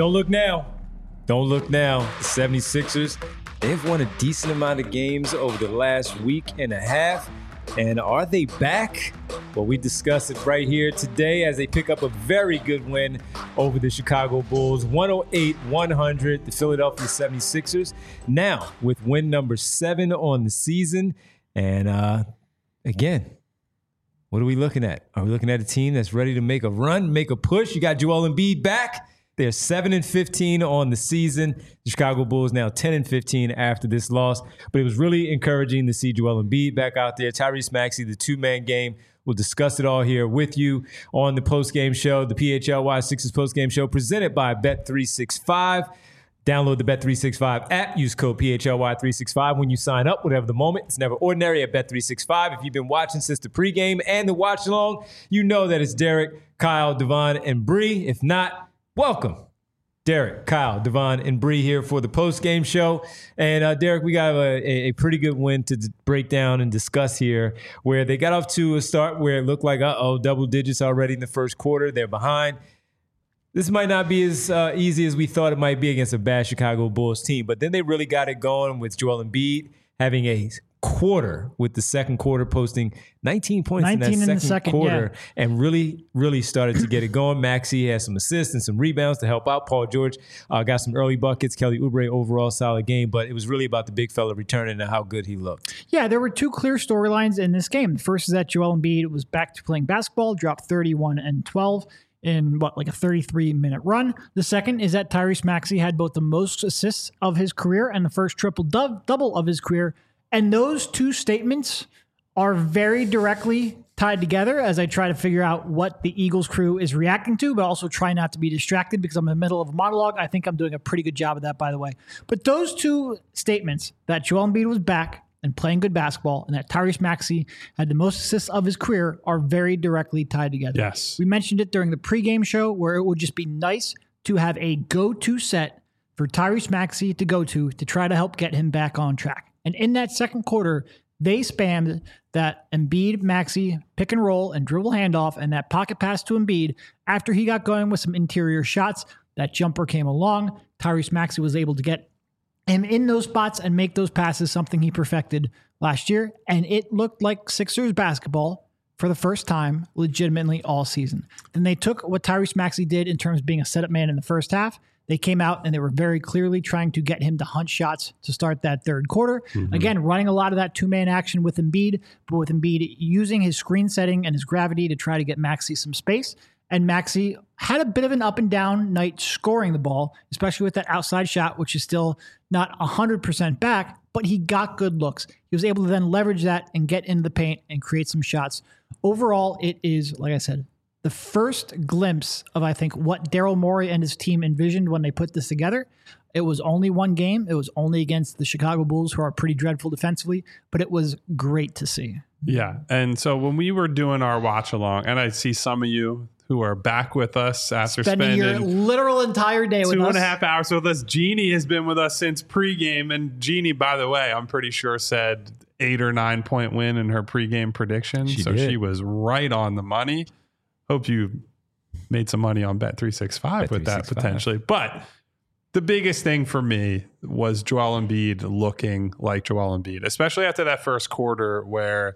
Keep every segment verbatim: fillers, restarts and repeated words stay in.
Don't look now. Don't look now. The seventy-sixers, they've won a decent amount of games over the last week and a half. And are they back? Well, we discuss it right here today as they pick up a very good win over the Chicago Bulls, one oh eight one hundred, the Philadelphia seventy-sixers. Now, with win number seven on the season. And uh, again, what are we looking at? Are we looking at a team that's ready to make a run, make a push? You got Joel Embiid back. They're seven and fifteen on the season. The Chicago Bulls now ten and fifteen after this loss. But it was really encouraging to see Joel Embiid back out there. Tyrese Maxey, the two-man game. We'll discuss it all here with you on the postgame show, the P H L Y Sixers postgame show, presented by Bet three sixty-five. Download the Bet three sixty-five app. Use code P H L Y three sixty-five when you sign up, whatever the moment. It's never ordinary at Bet three sixty-five. If you've been watching since the pregame and the watch-along, you know that it's Derek, Kyle, Devon, and Bree. If not, welcome. Derek, Kyle, Devon, and Bree here for the post-game show. And uh, Derek, we got a, a pretty good win to d- break down and discuss here, where they got off to a start where it looked like, uh-oh, double digits already in the first quarter. They're behind. This might not be as uh, easy as we thought it might be against a bad Chicago Bulls team. But then they really got it going with Joel Embiid having a quarter, with the second quarter posting nineteen points nineteen in that in second, second quarter, yeah. and really, really started to get it going. Maxey has some assists and some rebounds to help out. Paul George uh, got some early buckets. Kelly Oubre, overall solid game, but it was really about the big fella returning and how good he looked. Yeah, there were two clear storylines in this game. The first is that Joel Embiid was back to playing basketball, dropped thirty-one and twelve in what, like a thirty-three minute run. The second is that Tyrese Maxey had both the most assists of his career and the first triple double of his career. And those two statements are very directly tied together as I try to figure out what the Eagles crew is reacting to, but also try not to be distracted because I'm in the middle of a monologue. I think I'm doing a pretty good job of that, by the way. But those two statements, that Joel Embiid was back and playing good basketball, and that Tyrese Maxey had the most assists of his career, are very directly tied together. Yes. We mentioned it during the pregame show where it would just be nice to have a go-to set for Tyrese Maxey to go to to try to help get him back on track. And in that second quarter, they spammed that Embiid, Maxey pick and roll and dribble handoff and that pocket pass to Embiid after he got going with some interior shots. That jumper came along. Tyrese Maxey was able to get him in those spots and make those passes, something he perfected last year. And it looked like Sixers basketball for the first time legitimately all season. Then they took what Tyrese Maxey did in terms of being a setup man in the first half. They came out and they were very clearly trying to get him to hunt shots to start that third quarter. Mm-hmm. Again, running a lot of that two-man action with Embiid, but with Embiid using his screen setting and his gravity to try to get Maxey some space. And Maxey had a bit of an up and down night scoring the ball, especially with that outside shot, which is still not one hundred percent back, but he got good looks. He was able to then leverage that and get into the paint and create some shots. Overall, it is, like I said, the first glimpse of, I think, what Daryl Morey and his team envisioned when they put this together. It was only one game. It was only against the Chicago Bulls, who are pretty dreadful defensively, but it was great to see. Yeah. And so when we were doing our watch along, and I see some of you who are back with us after spending, spending your literal entire day with us. Two and a half hours with us. Jeannie has been with us since pregame. And Jeannie, by the way, I'm pretty sure said eight or nine point win in her pregame prediction. She so did. She was right on the money. Hope you made some money on Bet three sixty-five with that potentially. But the biggest thing for me was Joel Embiid looking like Joel Embiid, especially after that first quarter where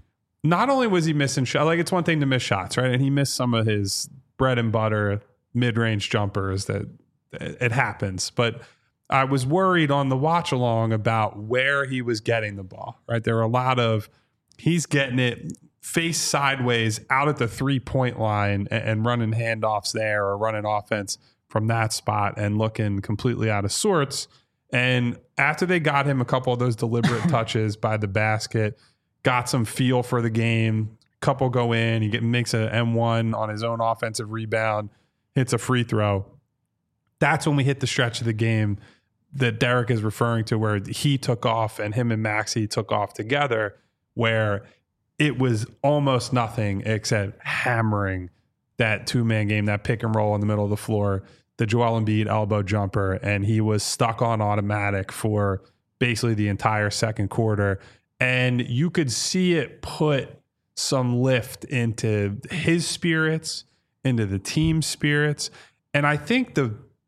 not only was he missing shots, like it's one thing to miss shots, right? And he missed some of his bread and butter mid-range jumpers that it happens. But I was worried on the watch along about where he was getting the ball, right? There were a lot of, he's getting it face sideways out at the three-point line and, and running handoffs there or running offense from that spot and looking completely out of sorts. And after they got him a couple of those deliberate touches by the basket, got some feel for the game, couple go in, he get, makes an M one on his own offensive rebound, hits a free throw. That's when we hit the stretch of the game that Derek is referring to where he took off and him and Maxey took off together, where it was almost nothing except hammering that two-man game, that pick and roll in the middle of the floor, the Joel Embiid elbow jumper, and he was stuck on automatic for basically the entire second quarter. And you could see it put some lift into his spirits, into the team's spirits. And I think the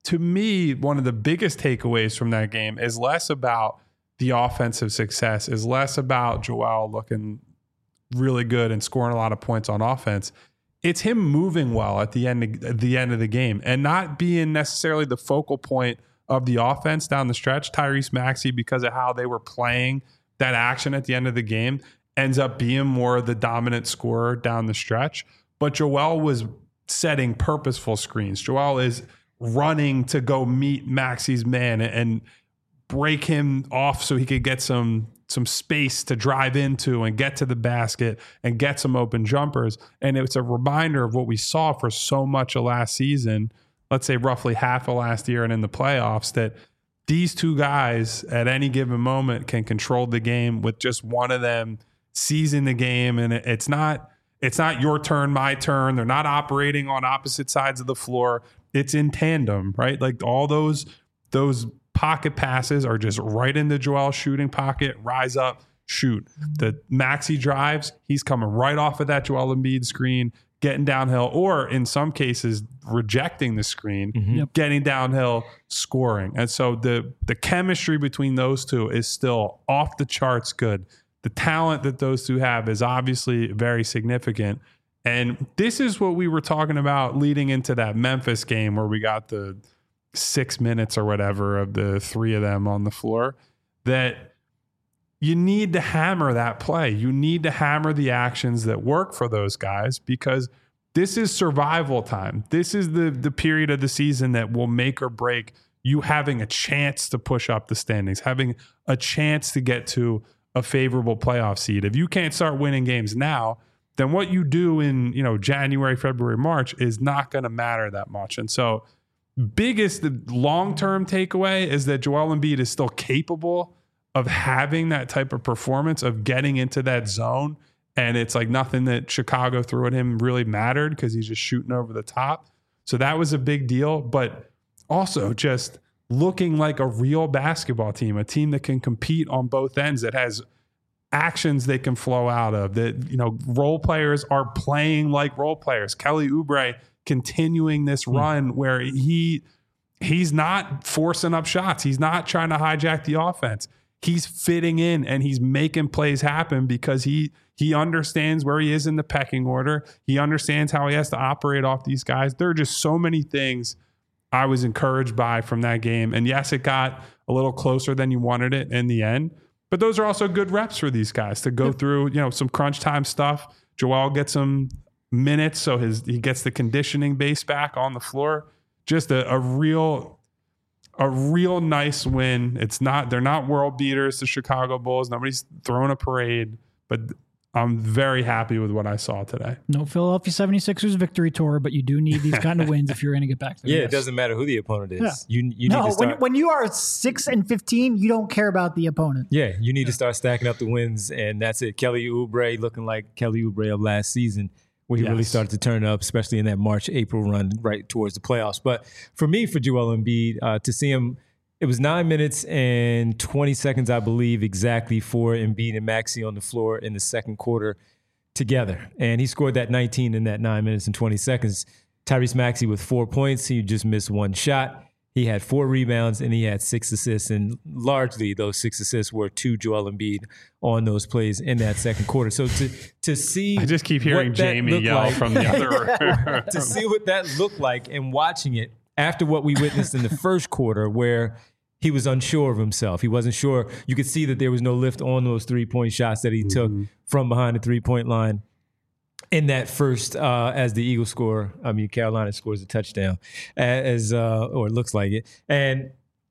to me, one of the biggest takeaways from that game is less about the offensive success, is less about Joel looking really good and scoring a lot of points on offense. It's him moving well at the end of, at the end of the game and not being necessarily the focal point of the offense down the stretch. Tyrese Maxey, because of how they were playing that action at the end of the game, ends up being more the dominant scorer down the stretch. But Joel was setting purposeful screens. Joel is running to go meet Maxey's man and break him off so he could get some some space to drive into and get to the basket and get some open jumpers. And it's a reminder of what we saw for so much of last season, let's say roughly half of last year and in the playoffs, that these two guys at any given moment can control the game with just one of them seizing the game. And it's not it's not your turn, my turn. They're not operating on opposite sides of the floor. It's in tandem, right? Like all those those pocket passes are just right into Joel's shooting pocket, rise up, shoot. The Maxey drives, he's coming right off of that Joel Embiid screen, getting downhill, or in some cases, rejecting the screen, mm-hmm. yep. getting downhill, scoring. And so the the chemistry between those two is still off the charts good. The talent that those two have is obviously very significant. And this is what we were talking about leading into that Memphis game where we got the six minutes or whatever of the three of them on the floor, that you need to hammer that play. You need to hammer the actions that work for those guys, because this is survival time. This is the the period of the season that will make or break you having a chance to push up the standings, having a chance to get to a favorable playoff seed. If you can't start winning games now, then what you do in, you know, January, February, March is not going to matter that much. And so biggest long-term takeaway is that Joel Embiid is still capable of having that type of performance, of getting into that zone. And it's like nothing that Chicago threw at him really mattered because he's just shooting over the top. So that was a big deal. But also just looking like a real basketball team, a team that can compete on both ends, that has actions they can flow out of, that, you know, role players are playing like role players. Kelly Oubre continuing this run where he he's not forcing up shots. He's not trying to hijack the offense. He's fitting in and he's making plays happen because he he understands where he is in the pecking order. He understands how he has to operate off these guys. There are just so many things I was encouraged by from that game. And yes, it got a little closer than you wanted it in the end. But those are also good reps for these guys to go through, you know, some crunch time stuff. Joel gets some minutes, so his he gets the conditioning base back on the floor. Just a, a real a real nice win. It's not they're not world beaters, the Chicago Bulls. Nobody's throwing a parade, but I'm very happy with what I saw today. No Philadelphia seventy-sixers victory tour, but you do need these kind of wins if you're going to get back there. Yeah, yes. It doesn't matter who the opponent is. Yeah. You you no, need to start. when, when you are six and fifteen, you don't care about the opponent. Yeah, you need yeah. to start stacking up the wins, and that's it. Kelly Oubre looking like Kelly Oubre of last season, where he yes. really started to turn up, especially in that March, April run right towards the playoffs. But for me, for Joel Embiid, uh, to see him, it was nine minutes and twenty seconds, I believe, exactly for Embiid and Maxey on the floor in the second quarter together. And he scored that nineteen in that nine minutes and twenty seconds. Tyrese Maxey with four points. He just missed one shot. He had four rebounds and he had six assists. And largely those six assists were to Joel Embiid on those plays in that second quarter. So to to see, I just keep hearing Jamie yell like, from the other room. To see what that looked like and watching it after what we witnessed in the first quarter, where he was unsure of himself. He wasn't sure. You could see that there was no lift on those three-point shots that he mm-hmm. took from behind the three-point line in that first, uh, as the Eagles score. I mean, Carolina scores a touchdown, as uh, or it looks like it. And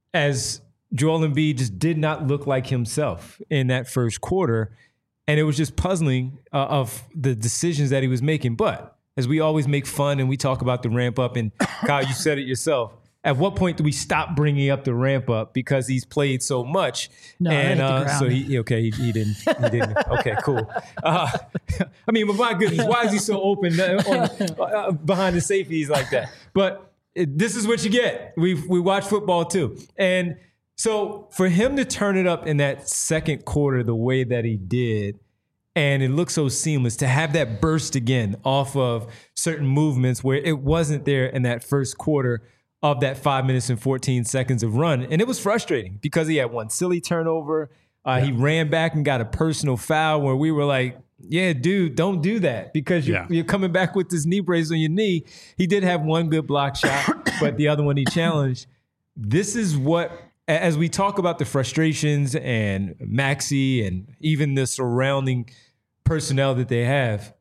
as Joel Embiid just did not look like himself in that first quarter, and it was just puzzling uh, of the decisions that he was making. But as we always make fun and we talk about the ramp up, and Kyle, you said it yourself. At what point do we stop bringing up the ramp up because he's played so much? No, and uh, so he okay, he, he didn't. He didn't. Okay, cool. Uh, I mean, but my goodness, why is he so open on, uh, behind the safeties like that? But it, this is what you get. We we watch football too, and so for him to turn it up in that second quarter the way that he did, and it looked so seamless, to have that burst again off of certain movements where it wasn't there in that first quarter of that five minutes and fourteen seconds of run. And it was frustrating because he had one silly turnover. Uh, yeah. He ran back and got a personal foul where we were like, yeah, dude, don't do that because you're, yeah. you're coming back with this knee brace on your knee. He did have one good block shot, but the other one he challenged. This is what, as we talk about the frustrations and Maxey and even the surrounding personnel that they have,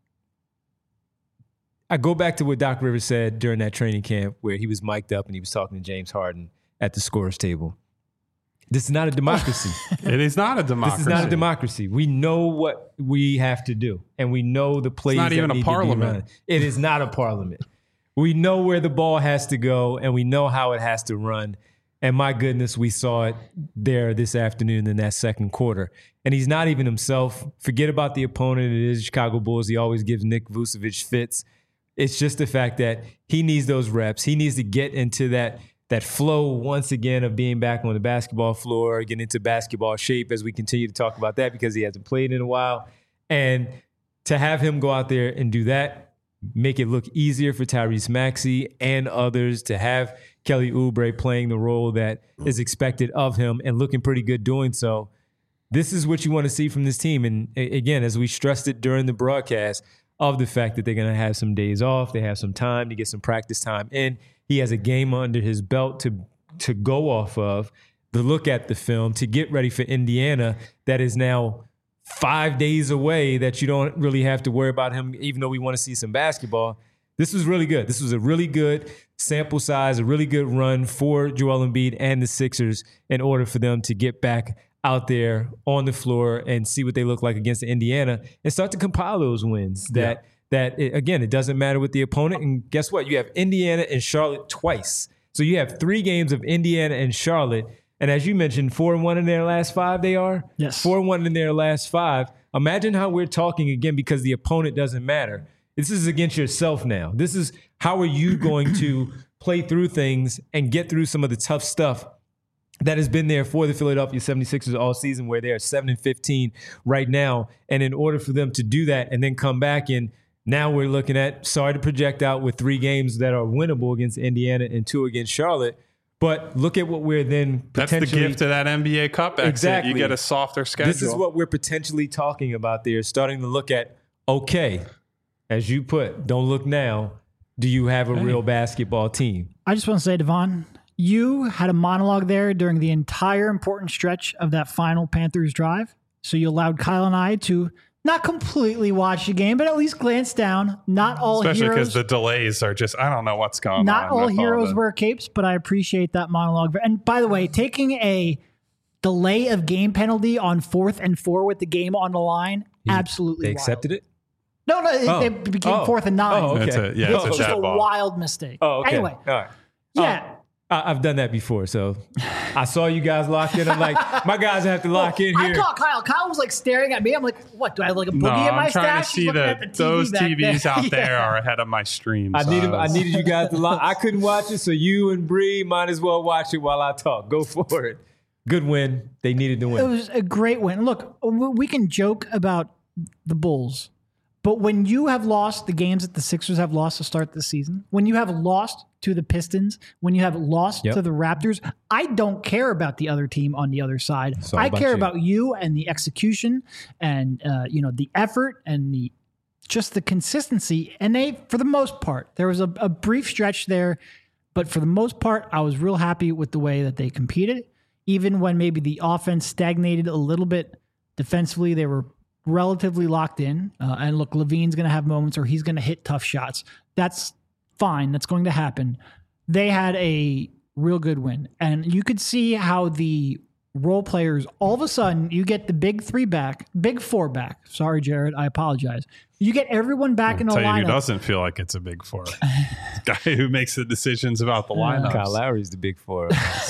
I go back to what Doc Rivers said during that training camp where he was mic'd up and he was talking to James Harden at the scorer's table. This is not a democracy. It is not a democracy. This is not a democracy. We know what we have to do, and we know the plays. It's not that even need a parliament. To be run. It is not a parliament. We know where the ball has to go, and we know how it has to run. And my goodness, we saw it there this afternoon in that second quarter. And he's not even himself. Forget about the opponent. It is Chicago Bulls. He always gives Nick Vucevic fits. It's just the fact that he needs those reps. He needs to get into that that flow once again of being back on the basketball floor, get into basketball shape as we continue to talk about that because he hasn't played in a while. And to have him go out there and do that, make it look easier for Tyrese Maxey and others, to have Kelly Oubre playing the role that is expected of him and looking pretty good doing so. This is what you want to see from this team. And again, as we stressed it during the broadcast, of the fact that they're going to have some days off, they have some time to get some practice time in. He has a game under his belt to to go off of, to look at the film, to get ready for Indiana that is now five days away, that you don't really have to worry about him, even though we want to see some basketball. This was really good. This was a really good sample size, a really good run for Joel Embiid and the Sixers in order for them to get back out there on the floor and see what they look like against Indiana and start to compile those wins. That, yeah. that it, again, it doesn't matter with the opponent. And guess what? You have Indiana and Charlotte twice. So you have three games of Indiana and Charlotte. And as you mentioned, four and one in their last five they are? Yes. Four and one in their last five. Imagine how we're talking again because the opponent doesn't matter. This is against yourself now. This is how are you going to play through things and get through some of the tough stuff that has been there for the Philadelphia seventy-sixers all season, where they are seven and fifteen right now. And in order for them to do that and then come back in, now we're looking at, sorry to project out with three games that are winnable against Indiana and two against Charlotte. But look at what we're then potentially... That's the gift of that N B A Cup exit. Exactly. You get a softer schedule. This is what we're potentially talking about there, starting to look at, okay, as you put, don't look now. Do you have a hey. real basketball team? I just want to say, Devon, you had a monologue there during the entire important stretch of that final Panthers drive. So you allowed Kyle and I to not completely watch the game, but at least glance down. Not all Especially heroes. Especially because the delays are just, I don't know what's going not on. Not all heroes all wear capes, but I appreciate that monologue. And by the way, taking a delay of game penalty on fourth and four with the game on the line, He, absolutely They wild. accepted it? No, no, oh. it became oh. fourth and nine. Oh, okay. It's a, yeah, it's it's just a, a ball. wild mistake. Oh, okay. Anyway. All right. Yeah. Oh. I've done that before, so I saw you guys locked in. I'm like, my guys have to lock well, in here. I caught Kyle. Kyle was like staring at me. I'm like, what? Do I have like a boogie no, in my I'm trying stash? to see that the those T Vs there. out yeah. there are ahead of my stream. I so needed, I, was... I needed you guys to lock. I couldn't watch it, so you and Bree might as well watch it while I talk. Go for it. Good win. They needed to win. It was a great win. Look, we can joke about the Bulls, but when you have lost the games that the Sixers have lost to start the season, when you have lost to the Pistons, when you have lost yep. to the Raptors, I don't care about the other team on the other side. I about care you. about you and the execution and uh, you know the effort and the just the consistency. And they, for the most part, there was a, a brief stretch there, but for the most part, I was real happy with the way that they competed. Even when maybe the offense stagnated a little bit defensively, they were relatively locked in. Uh, and look, Levine's going to have moments where he's going to hit tough shots. That's fine. That's going to happen. They had a real good win. And you could see how the role players, all of a sudden, you get the big three back, big four back. Sorry, Jared. I apologize. You get everyone back I'll in the tell lineup. You who doesn't feel like it's a big four? The guy who makes the decisions about the lineup. Kyle Lowry's the big four.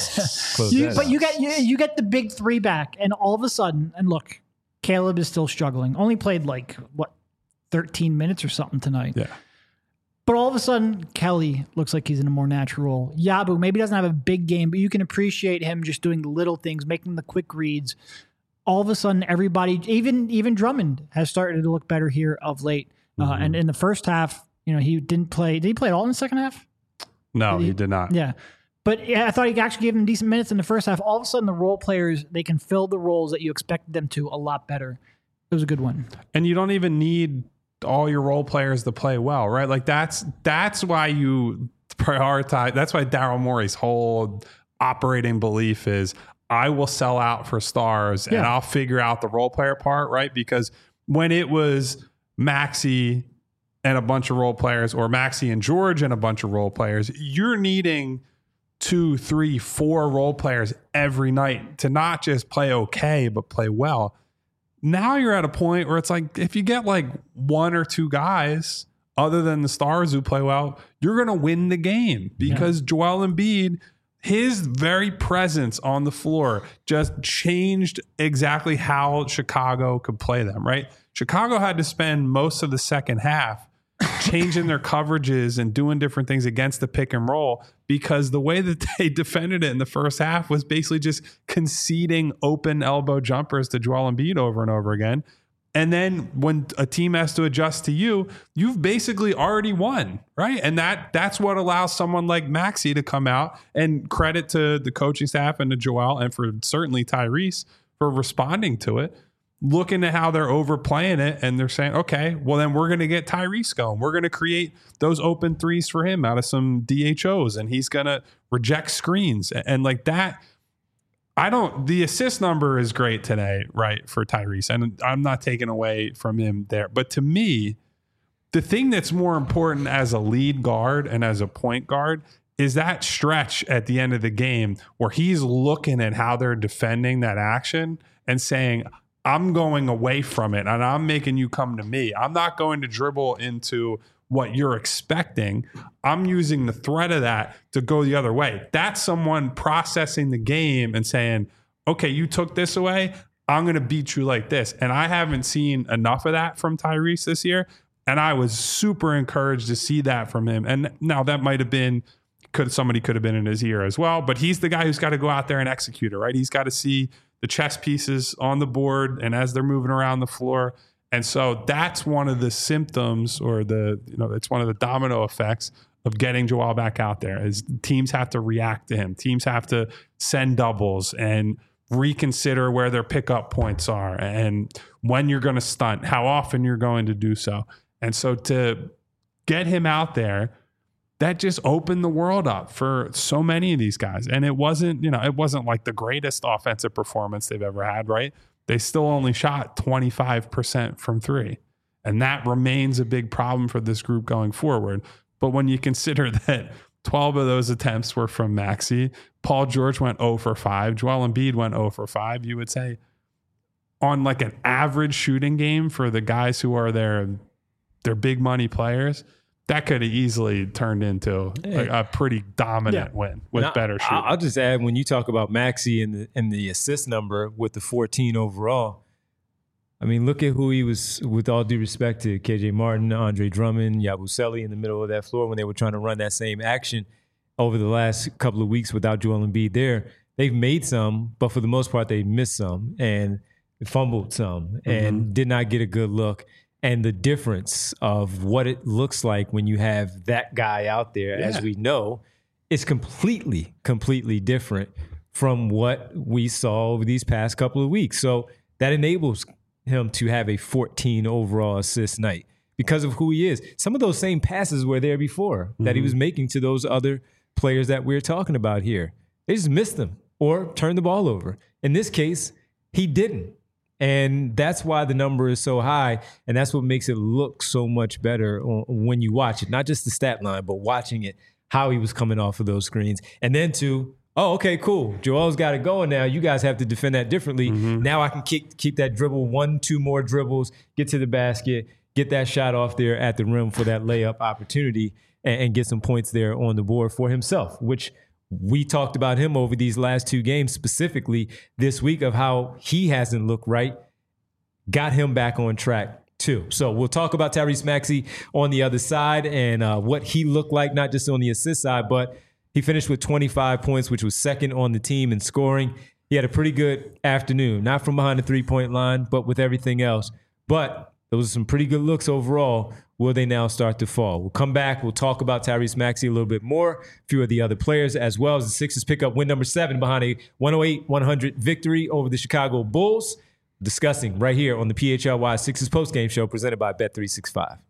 you, but you get you, you get the big three back, and all of a sudden, and look, Caleb is still struggling. Only played like what thirteen minutes or something tonight. Yeah. But all of a sudden, Kelly looks like he's in a more natural role. Yabu maybe doesn't have a big game, but you can appreciate him just doing the little things, making the quick reads. All of a sudden, everybody, even even Drummond, has started to look better here of late. Mm-hmm. Uh, and in the first half, you know, he didn't play. Did he play at all in the second half? No, did he, he did not. Yeah. But yeah, I thought he actually gave them decent minutes in the first half. All of a sudden, the role players, they can fill the roles that you expected them to a lot better. It was a good one. And you don't even need all your role players to play well, right? Like that's that's why you prioritize. That's why Daryl Morey's whole operating belief is I will sell out for stars yeah. and I'll figure out the role player part, right? Because when it was Maxey and a bunch of role players, or Maxey and George and a bunch of role players, you're needing two, three, four role players every night to not just play okay, but play well. Now you're at a point where it's like, if you get like one or two guys other than the stars who play well, you're going to win the game because yeah. Joel Embiid, his very presence on the floor just changed exactly how Chicago could play them, right? Chicago had to spend most of the second half changing their coverages and doing different things against the pick and roll because the way that they defended it in the first half was basically just conceding open elbow jumpers to Joel Embiid over and over again. And then when a team has to adjust to you, you've basically already won, right? And that that's what allows someone like Maxey to come out, and credit to the coaching staff and to Joel and for certainly Tyrese for responding to it, looking at how they're overplaying it, and they're saying, okay, well then we're going to get Tyrese going. We're going to create those open threes for him out of some D H Os, and he's going to reject screens. And, and like that, I don't, the assist number is great today, right, for Tyrese, and I'm not taking away from him there. But to me, the thing that's more important as a lead guard and as a point guard is that stretch at the end of the game where he's looking at how they're defending that action and saying, I'm going away from it and I'm making you come to me. I'm not going to dribble into what you're expecting. I'm using the threat of that to go the other way. That's someone processing the game and saying, okay, you took this away, I'm going to beat you like this. And I haven't seen enough of that from Tyrese this year. And I was super encouraged to see that from him. And now that might have been, could somebody could have been in his ear as well, but he's the guy who's got to go out there and execute it, right? He's got to see the chess pieces on the board and as they're moving around the floor. And so that's one of the symptoms, or the, you know, it's one of the domino effects of getting Joel back out there, is teams have to react to him. Teams have to send doubles and reconsider where their pickup points are and when you're going to stunt, how often you're going to do so. And so to get him out there, that just opened the world up for so many of these guys. And it wasn't, you know, it wasn't like the greatest offensive performance they've ever had, right? They still only shot twenty-five percent from three. And that remains a big problem for this group going forward. But when you consider that twelve of those attempts were from Maxey, Paul George went zero for five, Joel Embiid went zero for five, you would say on like an average shooting game for the guys who are their, their big money players, that could have easily turned into a, a pretty dominant yeah. win with now, better shooting. I'll just add, when you talk about Maxey and the, and the assist number with the fourteen overall, I mean, look at who he was, with all due respect to K J Martin, Andre Drummond, Yabusele in the middle of that floor when they were trying to run that same action over the last couple of weeks without Joel Embiid there. They've made some, but for the most part, they missed some and fumbled some and mm-hmm. did not get a good look. And the difference of what it looks like when you have that guy out there, yeah. as we know, is completely, completely different from what we saw over these past couple of weeks. So that enables him to have a fourteen overall assist night because of who he is. Some of those same passes were there before mm-hmm. that he was making to those other players that we're talking about here. They just missed them or turned the ball over. In this case, he didn't. And that's why the number is so high, and that's what makes it look so much better when you watch it. Not just the stat line, but watching it, how he was coming off of those screens. And then to, oh, okay, cool. Joel's got it going now. You guys have to defend that differently. Mm-hmm. Now I can keep, keep that dribble, one, two more dribbles, get to the basket, get that shot off there at the rim for that layup opportunity, and, and get some points there on the board for himself, which we talked about him over these last two games, specifically this week, of how he hasn't looked right, got him back on track too. So we'll talk about Tyrese Maxey on the other side and uh, what he looked like, not just on the assist side, but he finished with twenty-five points, which was second on the team in scoring. He had a pretty good afternoon, not from behind the three-point line, but with everything else. But those are some pretty good looks overall will they now start to fall? We'll come back. We'll talk about Tyrese Maxey a little bit more, a few of the other players, as well as the Sixers pick up win number seven behind a one oh eight one hundred victory over the Chicago Bulls. Discussing right here on the P H L Y Sixers postgame show presented by Bet three sixty-five.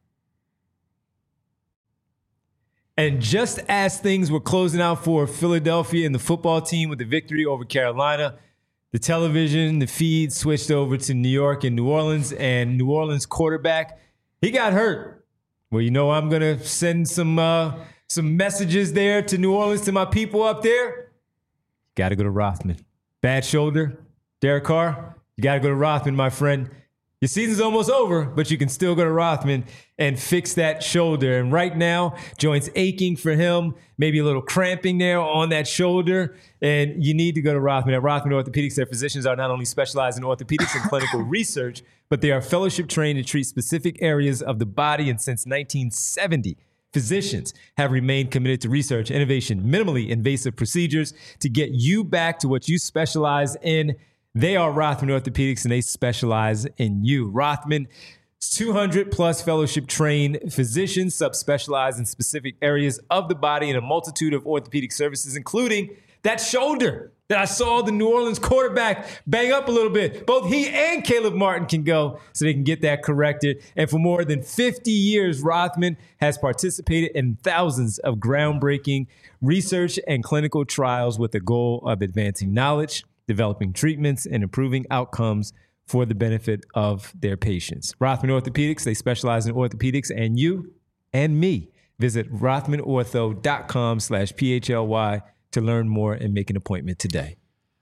And just as things were closing out for Philadelphia and the football team with the victory over Carolina, the television, the feed switched over to New York and New Orleans, and New Orleans quarterback, he got hurt. Well, you know, I'm going to send some uh, some messages there to New Orleans, to my people up there. Got to go to Rothman. Bad shoulder, Derek Carr. You got to go to Rothman, my friend. Your season's almost over, but you can still go to Rothman and fix that shoulder. And right now, joints aching for him, maybe a little cramping there on that shoulder. And you need to go to Rothman. At Rothman Orthopedics, their physicians are not only specialized in orthopedics and clinical research, but they are fellowship trained to treat specific areas of the body. And since nineteen seventy, physicians have remained committed to research, innovation, minimally invasive procedures to get you back to what you specialize in. They are Rothman Orthopedics, and they specialize in you. Rothman, two hundred plus fellowship trained physicians, subspecialize in specific areas of the body and a multitude of orthopedic services, including that shoulder that I saw the New Orleans quarterback bang up a little bit. Both he and Caleb Martin can go so they can get that corrected. And for more than fifty years, Rothman has participated in thousands of groundbreaking research and clinical trials with the goal of advancing knowledge, developing treatments, and improving outcomes for the benefit of their patients. Rothman Orthopedics, they specialize in orthopedics and you and me. Visit rothman ortho dot com slash P H L Y to learn more and make an appointment today.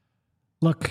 Look,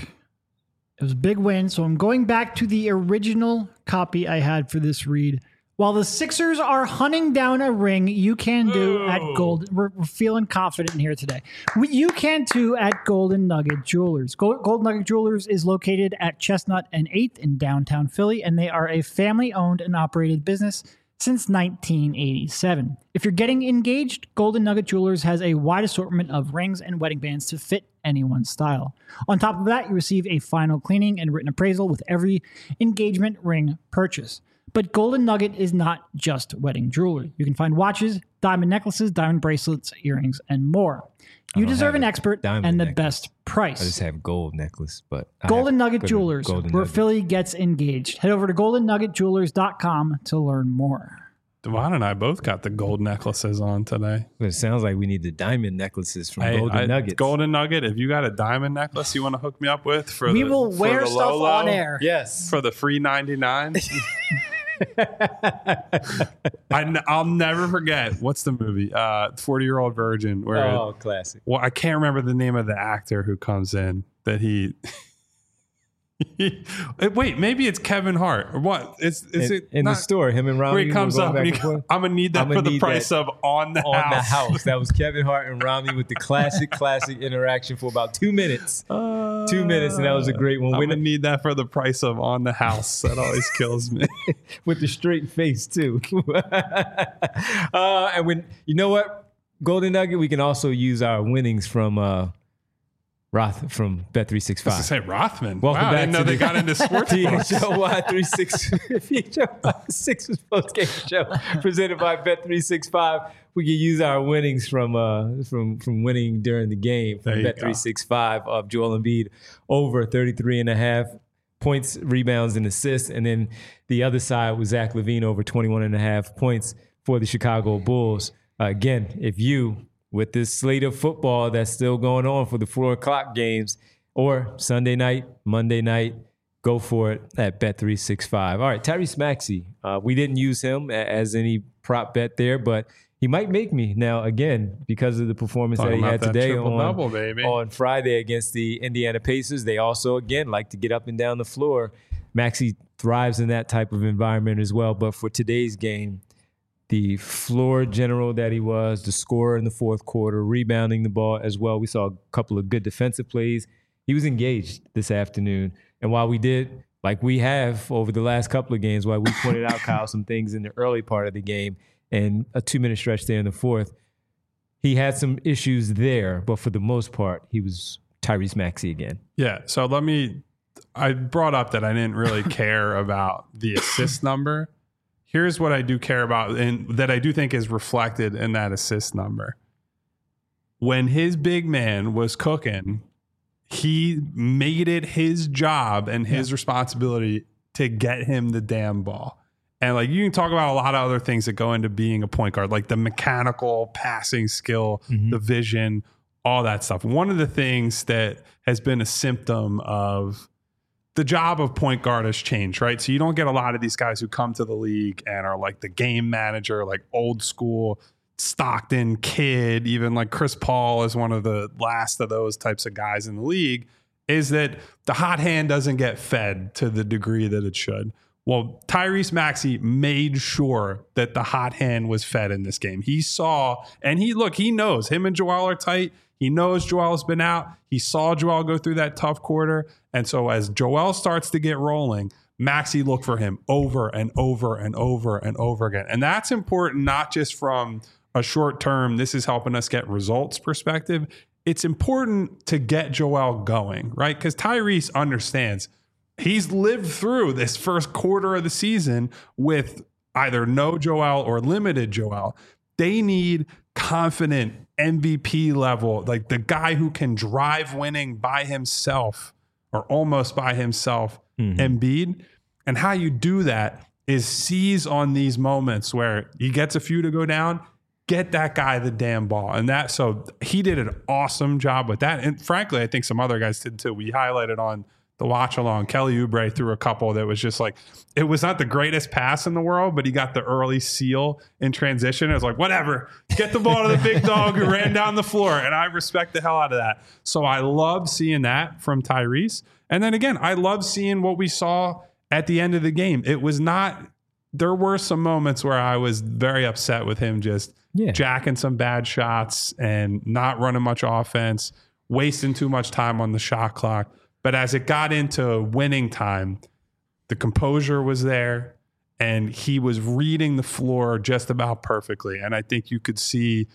it was a big win, so I'm going back to the original copy I had for this read. While the Sixers are hunting down a ring, you can do oh. at Gold. We're, we're feeling confident here today. We, you can too at Golden Nugget Jewelers. Gold, Golden Nugget Jewelers is located at Chestnut and eighth in downtown Philly, and they are a family-owned and operated business since nineteen eighty-seven. If you're getting engaged, Golden Nugget Jewelers has a wide assortment of rings and wedding bands to fit anyone's style. On top of that, you receive a final cleaning and written appraisal with every engagement ring purchase. But Golden Nugget is not just wedding jewelry. You can find watches, diamond necklaces, diamond bracelets, earrings, and more. You deserve an expert and the necklace. Best price. I just have gold necklace, but I Golden Nugget Jewelers, Golden where Nugget. Philly gets engaged. Head over to golden nugget jewelers dot com to learn more. Devon and I both got the gold necklaces on today. It sounds like we need the diamond necklaces from hey, Golden I, Nuggets. Golden Nugget, if you got a diamond necklace you want to hook me up with for we the, will for wear the stuff Lolo, on air. Yes, for the free ninety-nine. I, I'll never forget. What's the movie? Uh, forty-Year-Old Virgin. Where oh, it, classic. Well, I can't remember the name of the actor who comes in that he... Wait, maybe it's Kevin Hart or what? Is is in, it in not, the store? Him and Romney. Where he comes up and he, I'm gonna need that for the price of on the on house. the house. That was Kevin Hart and Romney with the classic, classic interaction for about two minutes. Uh, two minutes, and that was a great one. I'm gonna need that for the price of on the house. That always kills me. With the straight face too. uh, and when you know what, Golden Nugget, we can also use our winnings from. Uh, Roth from Bet three sixty-five. I was going to say Rothman. Welcome wow, back I didn't know to they the got into sports. P H L Y three sixty-six post-game show presented by Bet three sixty-five. We can use our winnings from uh, from from winning during the game from Bet three sixty-five of Joel Embiid over thirty-three and a half points, rebounds, and assists. And then the other side was Zach LaVine over twenty-one and a half points for the Chicago Bulls. Uh, again, if you... with this slate of football that's still going on for the four o'clock games or Sunday night, Monday night, go for it at Bet three sixty-five. All right, Tyrese Maxey. Uh, we didn't use him as any prop bet there, but he might make me now again because of the performance Talking that he had today on, double, baby. on Friday against the Indiana Pacers. They also, again, like to get up and down the floor. Maxey thrives in that type of environment as well. But for today's game, the floor general that he was, the scorer in the fourth quarter, rebounding the ball as well. We saw a couple of good defensive plays. He was engaged this afternoon. And while we did, like we have over the last couple of games, while we pointed out, Kyle, some things in the early part of the game and a two-minute stretch there in the fourth, he had some issues there. But for the most part, he was Tyrese Maxey again. Yeah, so let me – I brought up that I didn't really care about the assist number. here's what I do care about, and that I do think is reflected in that assist number. When his big man was cooking, he made it his job and his yeah. responsibility to get him the damn ball. And like you can talk about a lot of other things that go into being a point guard, like the mechanical passing skill, mm-hmm. the vision, all that stuff. One of the things that has been a symptom of the job of point guard has changed, right? So you don't get a lot of these guys who come to the league and are like the game manager, like old school Stockton kid, even like Chris Paul is one of the last of those types of guys in the league, is that the hot hand doesn't get fed to the degree that it should. Well, Tyrese Maxey made sure that the hot hand was fed in this game. He saw, and he, look, he knows him and Joel are tight. He knows Joel's been out. He saw Joel go through that tough quarter. And so as Joel starts to get rolling, Maxey looked for him over and over and over and over again. And that's important, not just from a short term, this is helping us get results perspective. It's important to get Joel going, right? Because Tyrese understands he's lived through this first quarter of the season with either no Joel or limited Joel. They need confident M V P level, like the guy who can drive winning by himself or almost by himself, mm-hmm. Embiid. And how you do that is seize on these moments where he gets a few to go down, get that guy the damn ball. And that, so he did an awesome job with that. And frankly, I think some other guys did too. We highlighted on the watch along, Kelly Oubre threw a couple that was just like, it was not the greatest pass in the world, but he got the early seal in transition. It was like, whatever, get the ball to the big dog who ran down the floor. And I respect the hell out of that. So I love seeing that from Tyrese. And then again, I love seeing what we saw at the end of the game. It was not, there were some moments where I was very upset with him just yeah. jacking some bad shots and not running much offense, wasting too much time on the shot clock. But as it got into winning time, the composure was there and he was reading the floor just about perfectly. And I think you could see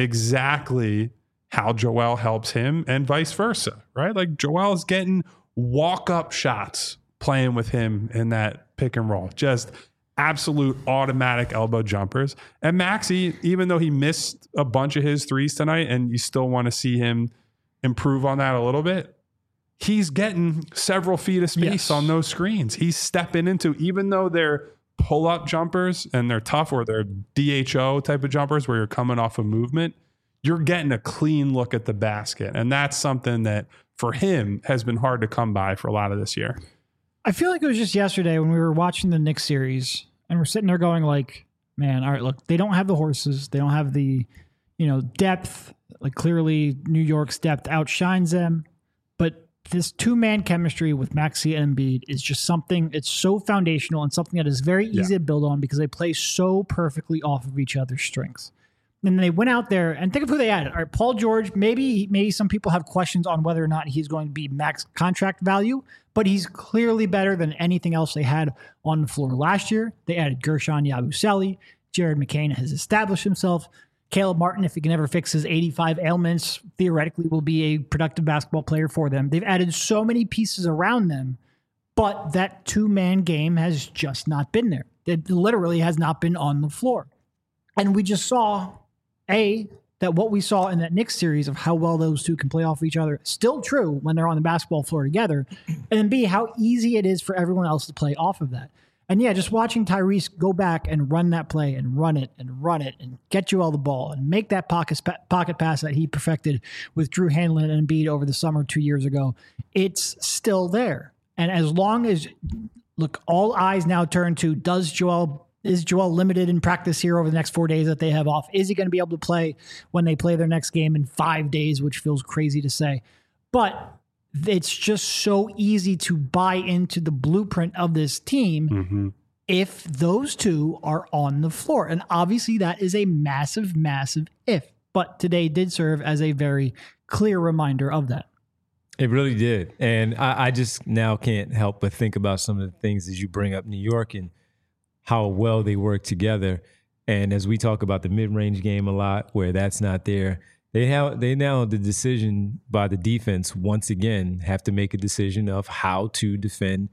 exactly how Joel helps him and vice versa, right? Like Joel's getting walk-up shots playing with him in that pick and roll. Just absolute automatic elbow jumpers. And Maxey, even though he missed a bunch of his threes tonight and you still want to see him improve on that a little bit, he's getting several feet of space yes. on those screens. He's stepping into, even though they're pull-up jumpers and they're tough or they're D H O type of jumpers where you're coming off a movement, you're getting a clean look at the basket. And that's something that for him has been hard to come by for a lot of this year. I feel like it was just yesterday when we were watching the Knicks series and we're sitting there going like, man, all right, look, they don't have the horses. They don't have the, you know, depth. Like clearly New York's depth outshines them. But this two-man chemistry with Maxey and Embiid is just something, it's so foundational and something that is very easy yeah. to build on because they play so perfectly off of each other's strengths. And they went out there and think of who they added. All right, Paul George, maybe maybe some people have questions on whether or not he's going to be max contract value, but he's clearly better than anything else they had on the floor last year. They added Gershon Yabusele. Jared McCain has established himself. Caleb Martin, if he can ever fix his eighty-five ailments, theoretically will be a productive basketball player for them. They've added so many pieces around them, but that two-man game has just not been there. It literally has not been on the floor. And we just saw, A, that what we saw in that Knicks series of how well those two can play off of each other, still true when they're on the basketball floor together. And then B, how easy it is for everyone else to play off of that. And yeah, just watching Tyrese go back and run that play and run it and run it and get you all the ball and make that pocket pocket pass that he perfected with Drew Hanlon and Embiid over the summer two years ago, it's still there. And as long as, look, all eyes now turn to, does Joel, is Joel limited in practice here over the next four days that they have off? Is he going to be able to play when they play their next game in five days, which feels crazy to say? But it's just so easy to buy into the blueprint of this team mm-hmm. if those two are on the floor. And obviously that is a massive, massive if. But today did serve as a very clear reminder of that. It really did. And I, I just now can't help but think about some of the things as you bring up New York and how well they work together. And as we talk about the mid-range game a lot, where that's not there, They have they now the decision by the defense once again have to make a decision of how to defend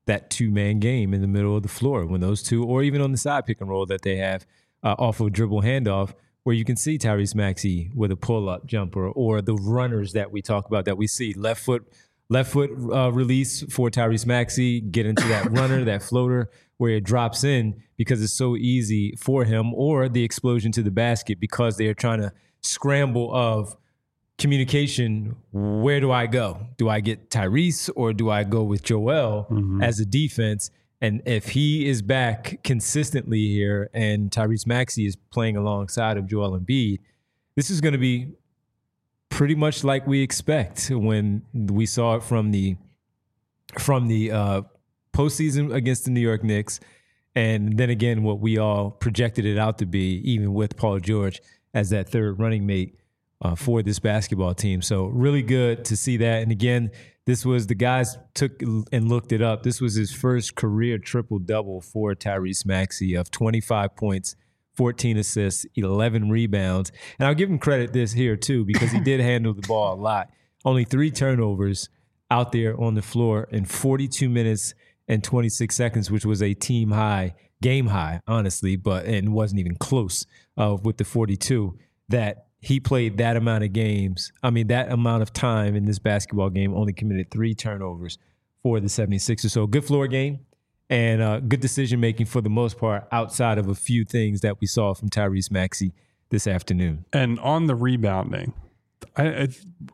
that two-man game in the middle of the floor when those two, or even on the side pick and roll that they have uh, off of a dribble handoff, where you can see Tyrese Maxey with a pull-up jumper, or the runners that we talk about that we see left foot left foot uh, release for Tyrese Maxey, get into that runner, that floater where it drops in because it's so easy for him, or the explosion to the basket because they are trying to scramble of communication. Where do I go? Do I get Tyrese or do I go with Joel mm-hmm. as a defense? And if he is back consistently here and Tyrese Maxey is playing alongside of Joel Embiid, this is going to be pretty much like we expect when we saw it from the from the uh, postseason against the New York Knicks. And then again, what we all projected it out to be, even with Paul George as that third running mate uh, for this basketball team. So really good to see that. And again, this was, the guys took and looked it up. This was his first career triple-double for Tyrese Maxey of twenty-five points, fourteen assists, eleven rebounds. And I'll give him credit this here too, because he did handle the ball a lot. Only three turnovers out there on the floor in forty-two minutes and twenty-six seconds, which was a team high, game high, honestly, but and wasn't even close uh, with the forty-two that he played that amount of games. I mean, that amount of time in this basketball game, only committed three turnovers for the seventy-sixers. So good floor game and uh, good decision-making for the most part outside of a few things that we saw from Tyrese Maxey this afternoon. And on the rebounding, I, I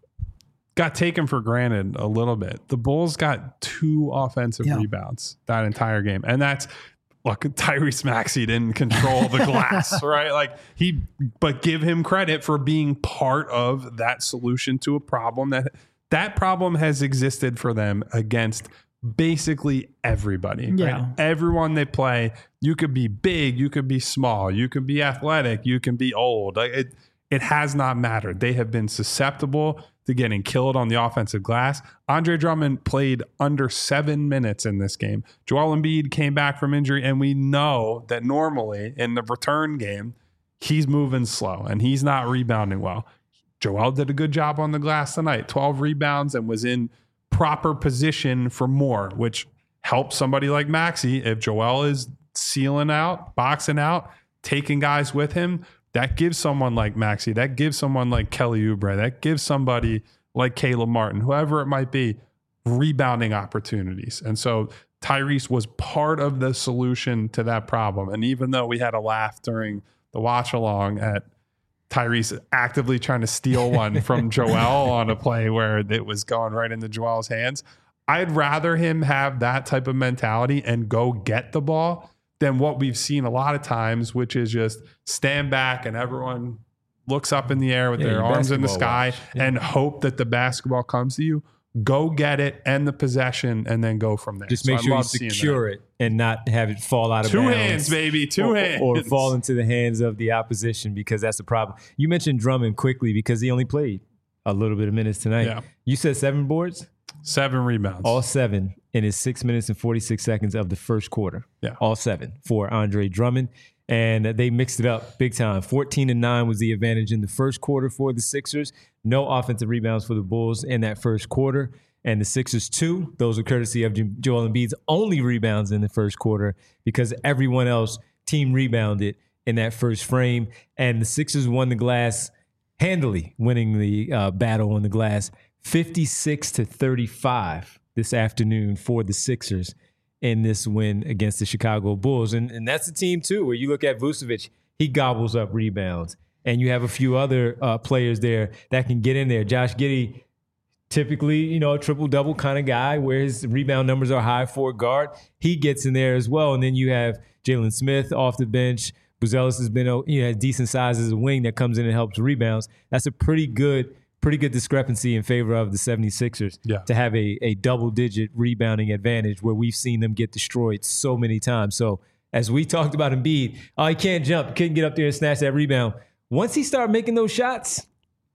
got taken for granted a little bit. The Bulls got two offensive yeah. rebounds that entire game. And that's, look, Tyrese Maxey didn't control the glass, right? Like he, but give him credit for being part of that solution to a problem that that problem has existed for them against basically everybody. Yeah. Right? Everyone they play, you could be big, you could be small, you can be athletic, you can be old. Like it, it has not mattered. They have been susceptible to getting killed on the offensive glass. Andre Drummond played under seven minutes in this game. Joel Embiid came back from injury, and we know that normally in the return game, he's moving slow and he's not rebounding well. Joel did a good job on the glass tonight, twelve rebounds, and was in proper position for more, which helps somebody like Maxey. If Joel is sealing out, boxing out, taking guys with him, that gives someone like Maxey, that gives someone like Kelly Oubre, that gives somebody like Caleb Martin, whoever it might be, rebounding opportunities. And so Tyrese was part of the solution to that problem. And even though we had a laugh during the watch along at Tyrese actively trying to steal one from Joel on a play where it was going right into Joel's hands, I'd rather him have that type of mentality and go get the ball than what we've seen a lot of times, which is just stand back and everyone looks up in the air with yeah, their arms in the sky yeah. and hope that the basketball comes to you. Go get it, end the possession, and then go from there. Just make so sure you secure it and not have it fall out of Two bounds. Two hands, baby. Two or, hands. Or fall into the hands of the opposition, because that's the problem. You mentioned Drummond quickly because he only played a little bit of minutes tonight. Yeah. You said seven boards? Seven rebounds. All seven in his six minutes and forty-six seconds of the first quarter. Yeah. All seven for Andre Drummond. And they mixed it up big time. fourteen and nine was the advantage in the first quarter for the Sixers. No offensive rebounds for the Bulls in that first quarter. And the Sixers, two, those are courtesy of Joel Embiid's only rebounds in the first quarter, because everyone else team rebounded in that first frame. And the Sixers won the glass handily, winning the uh, battle on the glass fifty-six to thirty-five this afternoon for the Sixers in this win against the Chicago Bulls. And, and that's the team, too, where you look at Vucevic, he gobbles up rebounds. And you have a few other uh, players there that can get in there. Josh Giddey, typically, you know, a triple-double kind of guy where his rebound numbers are high for a guard. He gets in there as well. And then you have Jalen Smith off the bench. Buzelis has been, you know, decent size as a wing that comes in and helps rebounds. That's a pretty good pretty good discrepancy in favor of the seventy-sixers yeah. to have a, a double-digit rebounding advantage where we've seen them get destroyed so many times. So as we talked about Embiid, oh, he can't jump, couldn't get up there and snatch that rebound. Once he started making those shots,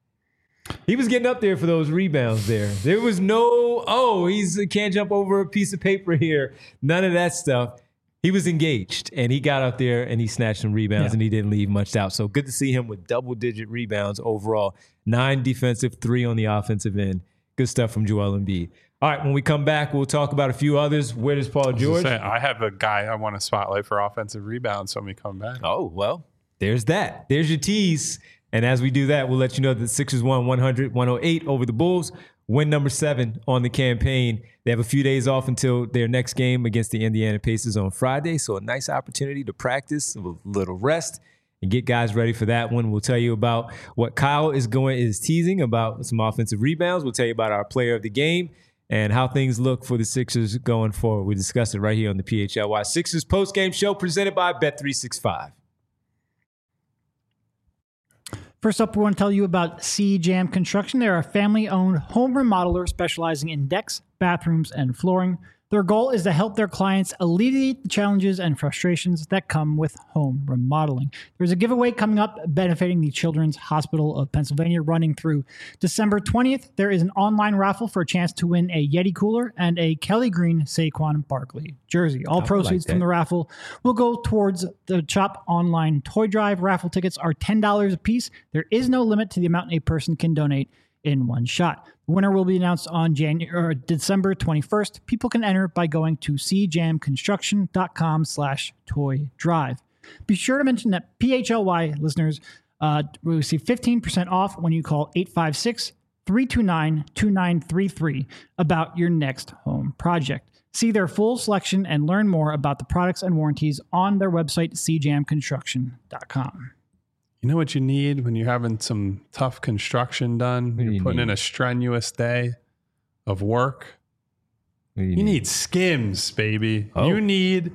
he was getting up there for those rebounds there. There was no, oh, he's can't jump over a piece of paper here. None of that stuff. He was engaged, and he got up there, and he snatched some rebounds, yeah. and he didn't leave much out. So good to see him with double-digit rebounds overall. Nine defensive, three on the offensive end. Good stuff from Joel Embiid. All right, when we come back, we'll talk about a few others. Where does Paul George? I, say, I have a guy I want to spotlight for offensive rebounds when we come back. Oh, well, there's that. There's your tease. And as we do that, we'll let you know that the Sixers won one hundred, one oh eight over the Bulls. Win number seven on the campaign. They have a few days off until their next game against the Indiana Pacers on Friday. So a nice opportunity to practice, a little rest, and get guys ready for that one. We'll tell you about what Kyle is going is teasing about some offensive rebounds. We'll tell you about our player of the game and how things look for the Sixers going forward. We discuss it right here on the P H L Y Sixers postgame show presented by Bet three sixty-five. First up, we want to tell you about C-Jam Construction. They're a family-owned home remodeler specializing in decks, bathrooms, and flooring. Their goal is to help their clients alleviate the challenges and frustrations that come with home remodeling. There's a giveaway coming up benefiting the Children's Hospital of Pennsylvania running through December twentieth. There is an online raffle for a chance to win a Yeti cooler and a Kelly Green Saquon Barkley jersey. All proceeds like from the raffle will go towards the Chop Online Toy Drive. Raffle tickets are ten dollars a piece. There is no limit to the amount a person can donate in one shot. The winner will be announced on January or December twenty-first. People can enter by going to cjamconstruction.com slash toy drive. Be sure to mention that P H L Y listeners uh, will receive fifteen percent off when you call eight five six, three two nine, two nine three three about your next home project. See their full selection and learn more about the products and warranties on their website, c jam construction dot com. You know what you need when you're having some tough construction done? You're you putting need? in a strenuous day of work. You, you need? need Skims, baby. Oh. You need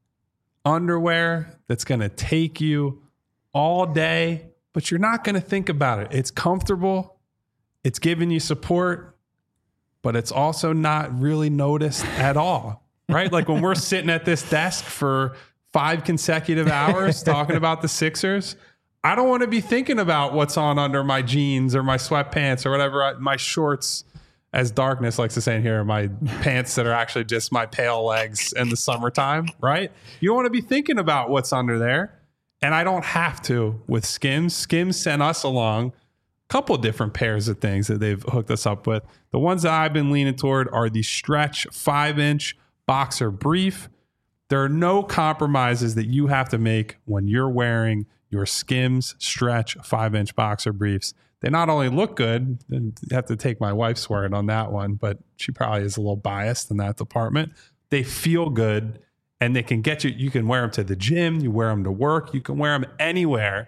underwear that's going to take you all day, but you're not going to think about it. It's comfortable. It's giving you support, but it's also not really noticed at all, right? Like when we're sitting at this desk for five consecutive hours talking about the Sixers, I don't want to be thinking about what's on under my jeans or my sweatpants or whatever, I, my shorts, as Darkness likes to say in here, my pants that are actually just my pale legs in the summertime, right? You don't want to be thinking about what's under there. And I don't have to with Skims. Skims sent us along a couple different pairs of things that they've hooked us up with. The ones that I've been leaning toward are the Stretch five-inch boxer brief. There are no compromises that you have to make when you're wearing your Skims Stretch five-inch boxer briefs. They not only look good, and you have to take my wife's word on that one, but she probably is a little biased in that department. They feel good, and they can get you. You can wear them to the gym. You wear them to work. You can wear them anywhere.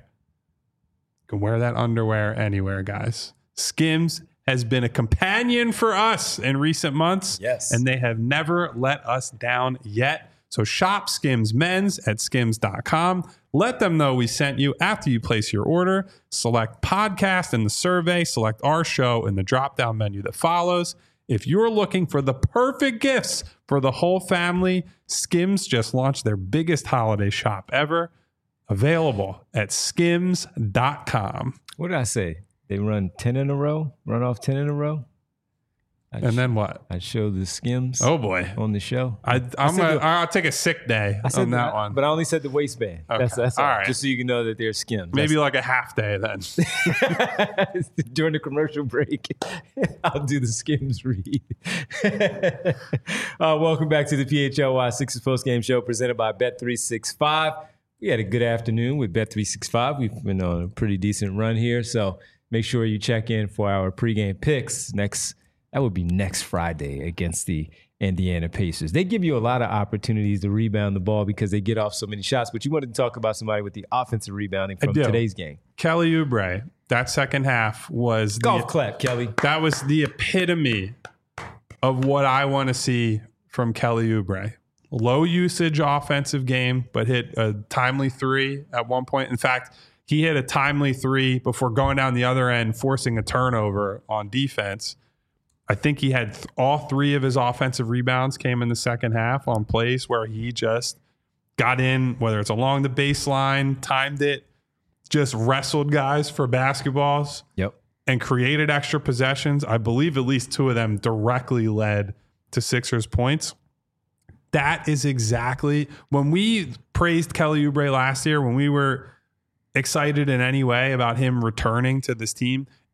You can wear that underwear anywhere, guys. Skims has been a companion for us in recent months. Yes. And they have never let us down yet. So shop Skims Men's at skims dot com. Let them know we sent you after you place your order. Select podcast in the survey. Select our show in the drop-down menu that follows. If you're looking for the perfect gifts for the whole family, Skims just launched their biggest holiday shop ever. Available at skims dot com. What did I say? They run ten in a row? Run off ten in a row? I'd And sh- then what? I showed the Skims Oh, boy. on the show. I, I'm said gonna, the- I'll take a sick day I said on that one. But I only said the waistband. Okay. That's, that's all. All right. Just so you can know that they're Skims. Maybe like a half day then. That's- during the commercial break, I'll do the Skims read. uh, welcome back to the P H L Y Sixers Post Game Show presented by Bet three sixty-five. We had a good afternoon with Bet three sixty-five. We've been on a pretty decent run here, so make sure you check in for our pregame picks next. That would be next Friday against the Indiana Pacers. They give you a lot of opportunities to rebound the ball because they get off so many shots. But you wanted to talk about somebody with the offensive rebounding from do. today's game. Kelly Oubre, that second half was Golf the, clap, Kelly. that was the epitome of what I want to see from Kelly Oubre. Low usage offensive game, but hit a timely three at one point. In fact, he hit a timely three before going down the other end, forcing a turnover on defense. I think he had th- all three of his offensive rebounds came in the second half on plays where he just got in, whether it's along the baseline, timed it, just wrestled guys for basketballs. Yep. And created extra possessions. I believe at least two of them directly led to Sixers points. That is exactly when we praised Kelly Oubre last year, when we were excited in any way about him returning to this team.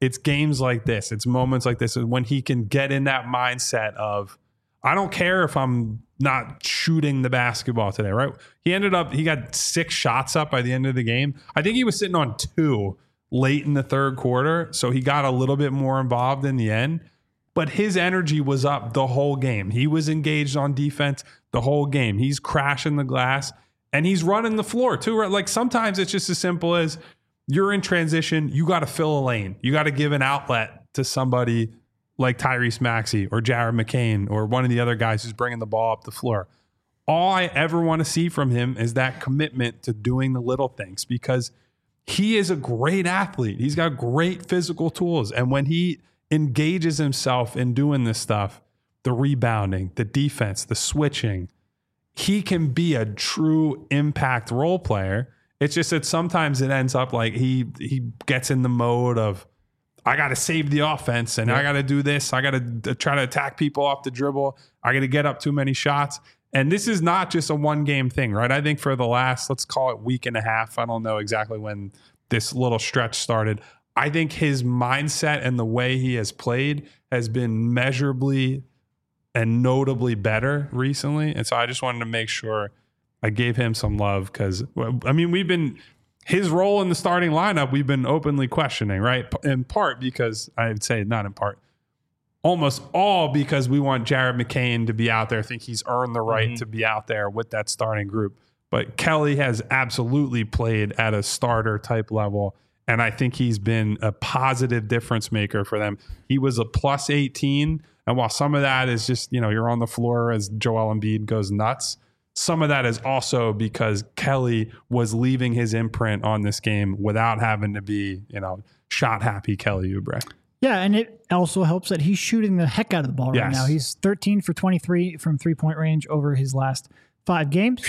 it's games like this. It's moments like this when he can get in that mindset of, I don't care if I'm not shooting the basketball today, right? He ended up, he got six shots up by the end of the game. I think he was sitting on two late in the third quarter. So he got a little bit more involved in the end. But his energy was up the whole game. He was engaged on defense the whole game. He's crashing the glass and he's running the floor too. Right? Like sometimes it's just as simple as you're in transition. You got to fill a lane. You got to give an outlet to somebody like Tyrese Maxey or Jared McCain or one of the other guys who's bringing the ball up the floor. All I ever want to see from him is that commitment to doing the little things, because he is a great athlete. He's got great physical tools. And when he engages himself in doing this stuff, the rebounding, the defense, the switching, he can be a true impact role player. It's just that sometimes it ends up like he he gets in the mode of, I got to save the offense and yeah. I got to do this. I got to try to attack people off the dribble. I got to get up too many shots. And this is not just a one game thing, right? I think for the last, let's call it week and a half, I don't know exactly when this little stretch started. I think his mindset and the way he has played has been measurably and notably better recently. And so I just wanted to make sure I gave him some love because, I mean, we've been, his role in the starting lineup, we've been openly questioning, right? In part because, I would say not in part, almost all because we want Jared McCain to be out there. I think he's earned the right mm-hmm. to be out there with that starting group. But Kelly has absolutely played at a starter type level. And I think he's been a positive difference maker for them. He was a plus eighteen. And while some of that is just, you know, you're on the floor as Joel Embiid goes nuts, some of that is also because Kelly was leaving his imprint on this game without having to be, you know, shot happy Kelly Oubre. Yeah, and it also helps that he's shooting the heck out of the ball right yes. now. He's thirteen for twenty-three from three-point range over his last five games.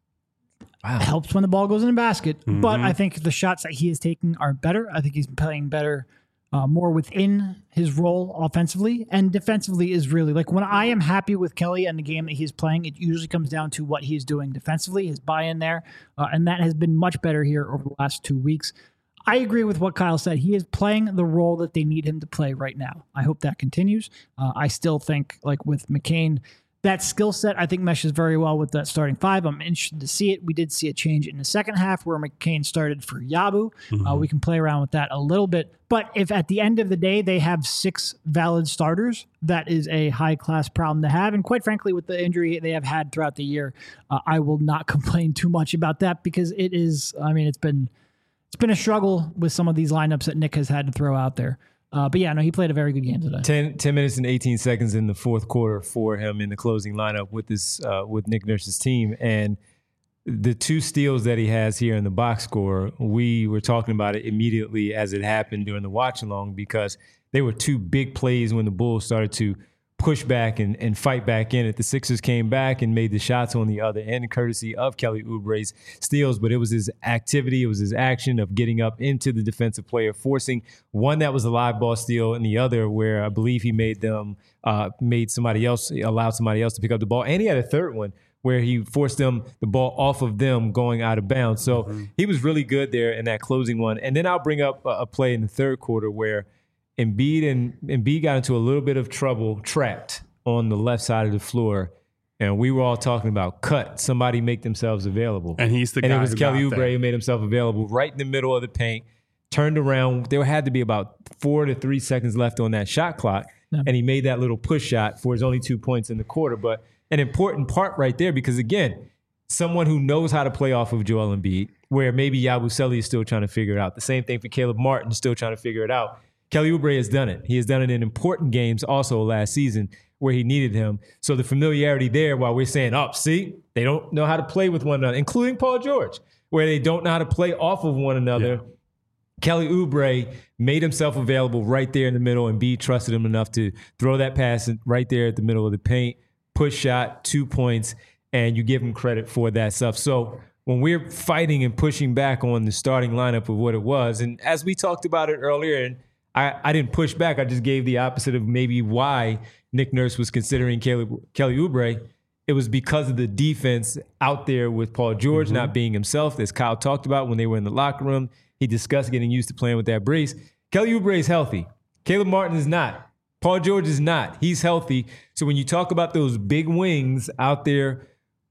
Wow. It helps when the ball goes in the basket. Mm-hmm. But I think the shots that he is taking are better. I think he's playing better, uh, more within his role offensively. And defensively is really, like, when I am happy with Kelly and the game that he's playing, it usually comes down to what he's doing defensively, his buy-in there. Uh, and that has been much better here over the last two weeks. I agree with what Kyle said. He is playing the role that they need him to play right now. I hope that continues. Uh, I still think, like with McCain, that skill set, I think, meshes very well with that starting five. I'm interested to see it. We did see a change in the second half where McCain started for Yabu. Mm-hmm. Uh, we can play around with that a little bit. But if at the end of the day they have six valid starters, that is a high-class problem to have. And quite frankly, with the injury they have had throughout the year, uh, I will not complain too much about that because it is, I mean, it's been it's been a struggle with some of these lineups that Nick has had to throw out there. Uh, but yeah, no, he played a very good game today. ten, ten minutes and eighteen seconds in the fourth quarter for him in the closing lineup with this uh, with Nick Nurse's team. And the two steals that he has here in the box score, we were talking about it immediately as it happened during the watch along because they were two big plays when the Bulls started to push back and, and fight back in it. The Sixers came back and made the shots on the other end, courtesy of Kelly Oubre's steals, but it was his activity, it was his action of getting up into the defensive player, forcing one that was a live ball steal and the other where I believe he made them, uh, made somebody else, allowed somebody else to pick up the ball. And he had a third one where he forced them, the ball off of them going out of bounds. So mm-hmm. he was really good there in that closing one. And then I'll bring up a, a play in the third quarter where Embiid and Embiid got into a little bit of trouble, trapped on the left side of the floor, and we were all talking about cut. Somebody make themselves available, and he's the and guy. And it was who Kelly Oubre who made himself available right in the middle of the paint. Turned around. There had to be about four to three seconds left on that shot clock, yeah. and he made that little push shot for his only two points in the quarter. But an important part right there because again, someone who knows how to play off of Joel Embiid, where maybe Yabusele is still trying to figure it out. The same thing for Caleb Martin, still trying to figure it out. Kelly Oubre has done it. He has done it in important games also last season where he needed him. So the familiarity there while we're saying, oh, see, they don't know how to play with one another, including Paul George, where they don't know how to play off of one another. Yeah. Kelly Oubre made himself available right there in the middle, and B trusted him enough to throw that pass right there at the middle of the paint, push shot, two points, and you give him credit for that stuff. So when we're fighting and pushing back on the starting lineup of what it was, and as we talked about it earlier, and I, I didn't push back. I just gave the opposite of maybe why Nick Nurse was considering Kelly, Kelly Oubre. It was because of the defense out there with Paul George mm-hmm. not being himself, as Kyle talked about when they were in the locker room. He discussed getting used to playing with that brace. Kelly Oubre is healthy. Caleb Martin is not. Paul George is not. He's healthy. So when you talk about those big wings out there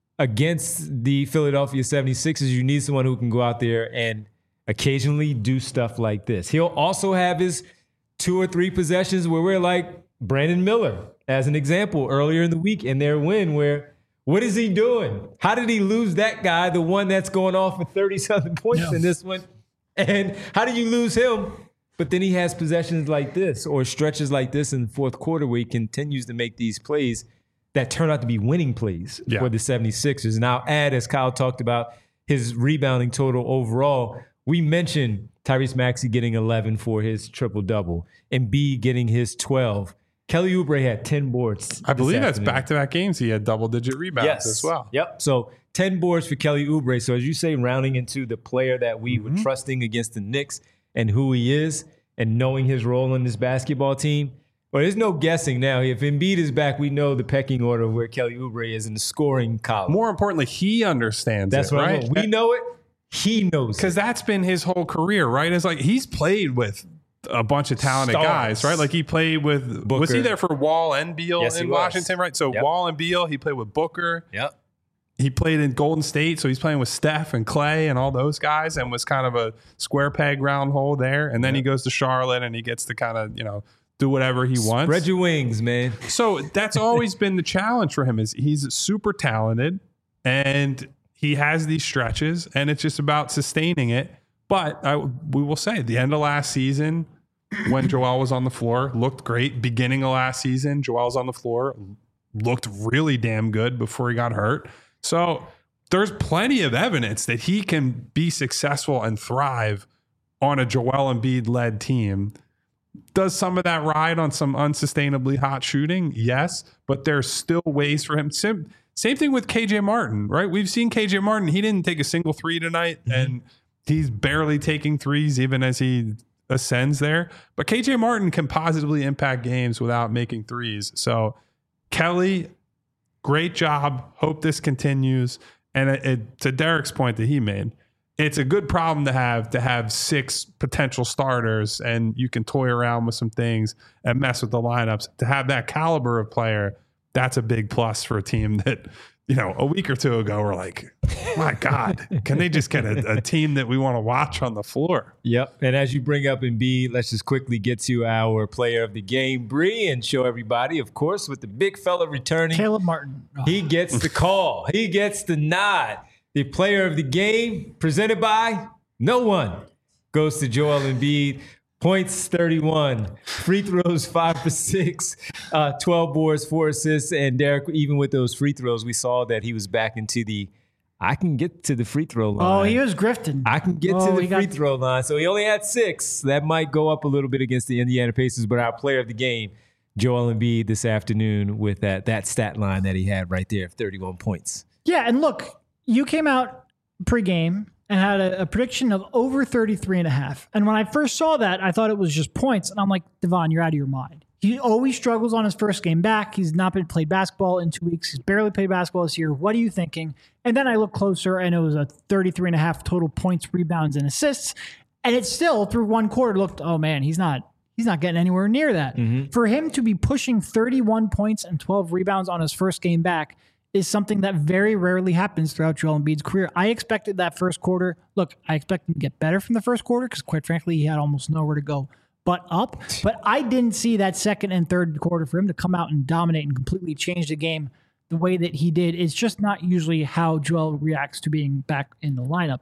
against the Philadelphia seventy-sixers, you need someone who can go out there and occasionally do stuff like this. He'll also have his two or three possessions where we're like Brandon Miller, as an example, earlier in the week in their win where, what is he doing? How did he lose that guy, the one that's going off for thirty-something points yeah. in this one? And how do you lose him? But then he has possessions like this or stretches like this in the fourth quarter where he continues to make these plays that turn out to be winning plays yeah. for the seventy-sixers. And I'll add, as Kyle talked about, his rebounding total overall. We mentioned Tyrese Maxey getting eleven for his triple-double and B getting his twelve. Kelly Oubre had ten boards. I believe that's back-to-back games. He had double-digit rebounds yes. as well. Yep. So ten boards for Kelly Oubre. So as you say, rounding into the player that we mm-hmm. were trusting against the Knicks and who he is and knowing his role in this basketball team. Well, there's no guessing now. If Embiid is back, we know the pecking order of where Kelly Oubre is in the scoring column. More importantly, he understands that's it, what right? I know. We know it. He knows it. Because that's been his whole career, right? It's like he's played with a bunch of talented Stars. guys, right? Like he played with Booker. Was he there for Wall and Beal yes, in Washington, right? So yep. Wall and Beal, he played with Booker. Yep. He played in Golden State, so he's playing with Steph and Clay and all those guys, and was kind of a square peg round hole there. And then yep. he goes to Charlotte, and he gets to kind of, you know, do whatever he wants. Spread your wings, man. So that's always been the challenge for him. Is he's super talented, and he has these stretches, and it's just about sustaining it. But I, we will say, the end of last season, when Joel was on the floor, looked great. Beginning of last season, Joel's on the floor, looked really damn good before he got hurt. So there's plenty of evidence that he can be successful and thrive on a Joel Embiid-led team. Does some of that ride on some unsustainably hot shooting? Yes, but there's still ways for him. Same, same thing with K J Martin, right? We've seen K J Martin. He didn't take a single three tonight, mm-hmm. and he's barely taking threes even as he ascends there. But K J Martin can positively impact games without making threes. So Kelly, great job. Hope this continues. And it, it, to Derek's point that he made, it's a good problem to have, to have six potential starters, and you can toy around with some things and mess with the lineups. To have that caliber of player, that's a big plus for a team that, you know, a week or two ago we're like, my God, can they just get a, a team that we want to watch on the floor? Yep. And as you bring up Embiid, let's just quickly get to our player of the game, Bree, and show everybody, of course, with the big fella returning. Caleb Martin. Oh. He gets the call. He gets the nod. The player of the game, presented by no one, goes to Joel Embiid. Points, thirty-one. Free throws, five for six. Uh, twelve boards, four assists. And Derek, even with those free throws, we saw that he was back into the, I can get to the free throw line. Oh, he was grifting. I can get oh, to the free got... throw line. So he only had six. That might go up a little bit against the Indiana Pacers, but our player of the game, Joel Embiid, this afternoon with that, that stat line that he had right there of thirty-one points. Yeah, and look, you came out pregame and had a, a prediction of over thirty-three and a half. And when I first saw that, I thought it was just points. And I'm like, Devon, you're out of your mind. He always struggles on his first game back. He's not been played basketball in two weeks. He's barely played basketball this year. What are you thinking? And then I looked closer, and it was a thirty-three and a half total points, rebounds, and assists. And it still, through one quarter, looked, oh man, he's not he's not getting anywhere near that. Mm-hmm. For him to be pushing thirty-one points and twelve rebounds on his first game back is something that very rarely happens throughout Joel Embiid's career. I expected that first quarter. Look, I expect him to get better from the first quarter because, quite frankly, he had almost nowhere to go but up. But I didn't see that second and third quarter for him to come out and dominate and completely change the game the way that he did. It's just not usually how Joel reacts to being back in the lineup.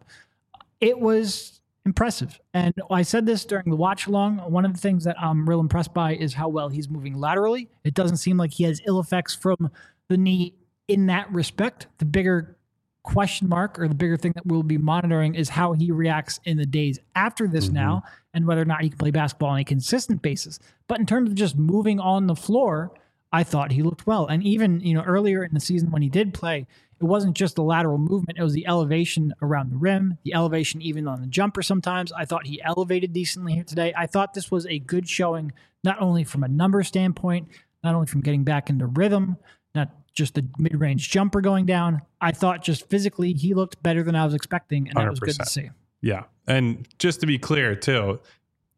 It was impressive. And I said this during the watch along. One of the things that I'm real impressed by is how well he's moving laterally. It doesn't seem like he has ill effects from the knee in that respect. The bigger question mark or the bigger thing that we'll be monitoring is how he reacts in the days after this mm-hmm. now and whether or not he can play basketball on a consistent basis. But in terms of just moving on the floor, I thought he looked well. And even, you know, earlier in the season when he did play, it wasn't just the lateral movement. It was the elevation around the rim, the elevation even on the jumper sometimes. I thought he elevated decently here today. I thought this was a good showing, not only from a number standpoint, not only from getting back into rhythm, not just the mid-range jumper going down. I thought just physically he looked better than I was expecting, and that was good to see. Yeah. And just to be clear, too,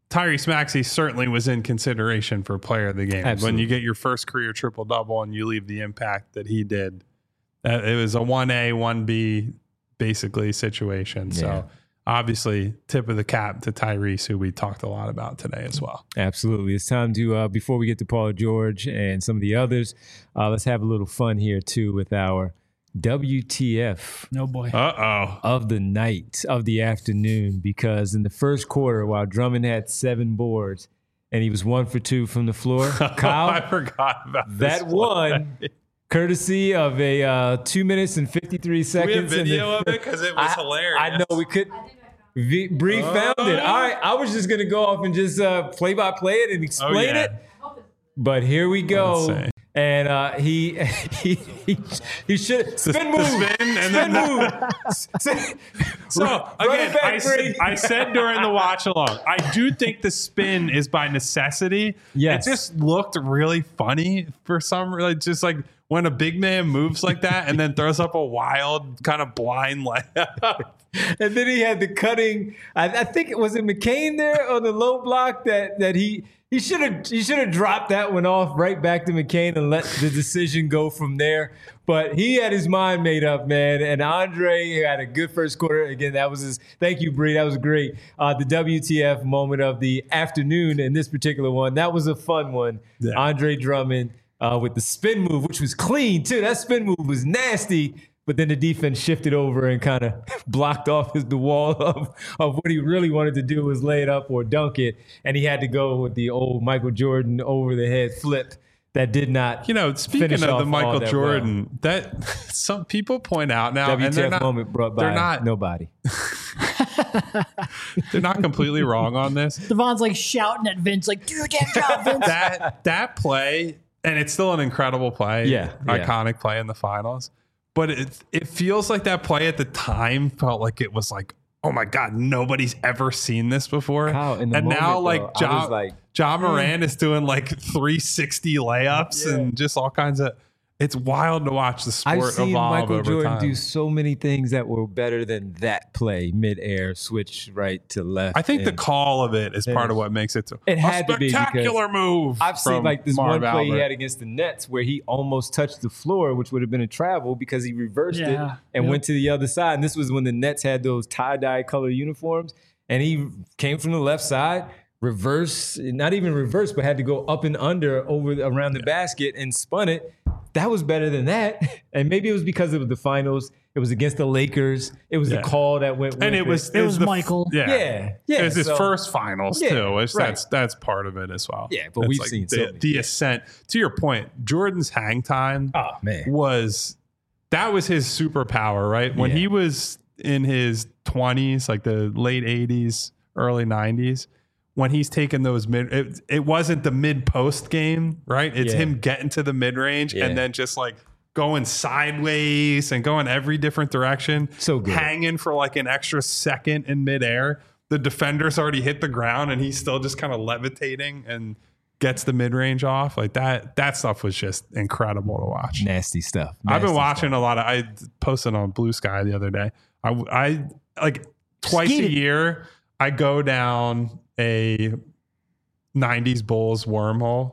Tyrese Maxey certainly was in consideration for player of the game. Absolutely. When you get your first career triple-double and you leave the impact that he did, uh, it was a one A, one B basically situation. Yeah. So obviously tip of the cap to Tyrese, who we talked a lot about today as well. Absolutely. It's time to, uh, before we get to Paul George and some of the others, uh, let's have a little fun here too with our W T F No boy. Uh-oh. of the night, of the afternoon, because in the first quarter, while Drummond had seven boards and he was one for two from the floor, Kyle, I forgot about that one, courtesy of a uh, two minutes and fifty-three seconds. Do we have video of it? Because it was I, hilarious. I know we could. V- Bree Oh. found it. All right, I was just going to go off and just uh, play by play it and explain Oh, yeah. it. But here we go. Let's see. And uh, he he he, he should spin move, spin and spin then- move. So Run again, it back, I, s- Bree. I said during the watch along, I do think the spin is by necessity. Yes. It just looked really funny for some reason. Just like when a big man moves like that and then throws up a wild kind of blind layup. And then he had the cutting. I, I think it was it McCain there on the low block that that he he should have he should have dropped that one off right back to McCain and let the decision go from there. But he had his mind made up, man. And Andre had a good first quarter. Again, that was his. Thank you, Bree. That was great. Uh, the W T F moment of the afternoon in this particular one. That was a fun one. Yeah. Andre Drummond uh, with the spin move, which was clean too. That spin move was nasty. But then the defense shifted over and kind of blocked off his, the wall of, of what he really wanted to do was lay it up or dunk it. And he had to go with the old Michael Jordan over the head flip that did not. You know, speaking finish of off the all Michael that Jordan, that some people point out now, W and T they're F not, moment brought by they're not, nobody. they're not completely wrong on this. Devon's like shouting at Vince, like, do your damn job, Vince. That that play, and it's still an incredible play, Yeah, yeah. iconic play in the finals. But it it feels like that play at the time felt like it was like, oh my God, nobody's ever seen this before. Kyle, in the and moment, now though, like I John, was like, John Moran is doing like three sixty layups Yeah. and just all kinds of. It's wild to watch the sport I've seen evolve Michael over Jordan time. do so many things that were better than that play, midair, switch right to left. I think the and call of it is It part of is. what makes it so, It a had to be because spectacular move. I've seen from like this Marv one play he Albert. had against the Nets where he almost touched the floor, which would have been a travel because he reversed it Yeah. and Yep. went to the other side. And this was when the Nets had those tie-dye color uniforms. And he came from the left side, reverse, not even reverse, but had to go up and under over around the basket and spun it. That was better than that. And maybe it was because it was the finals. It was against the Lakers. It was Yeah. the call that went with and it was It was the f- Michael. Yeah, Yeah, yeah, It was his so- first finals Yeah, too. Which right. That's that's part of it as well. Yeah, but That's we've like seen the, so many. the ascent. To your point, Jordan's hang time Oh, man. was that was his superpower, right? When Yeah. he was in his twenties, like the late eighties, early nineties, when he's taking those mid, it, it wasn't the mid post game, right? It's Yeah. him getting to the mid range Yeah. and then just like going sideways and going every different direction. So good. Hanging for like an extra second in midair. The defender's already hit the ground and he's still just kind of levitating and gets the mid range off. Like that, that stuff was just incredible to watch. Nasty stuff. I've been Nasty watching stuff. a lot of. I posted on Blue Sky the other day. I, I like twice Skeeted. a year. I go down a nineties Bulls wormhole,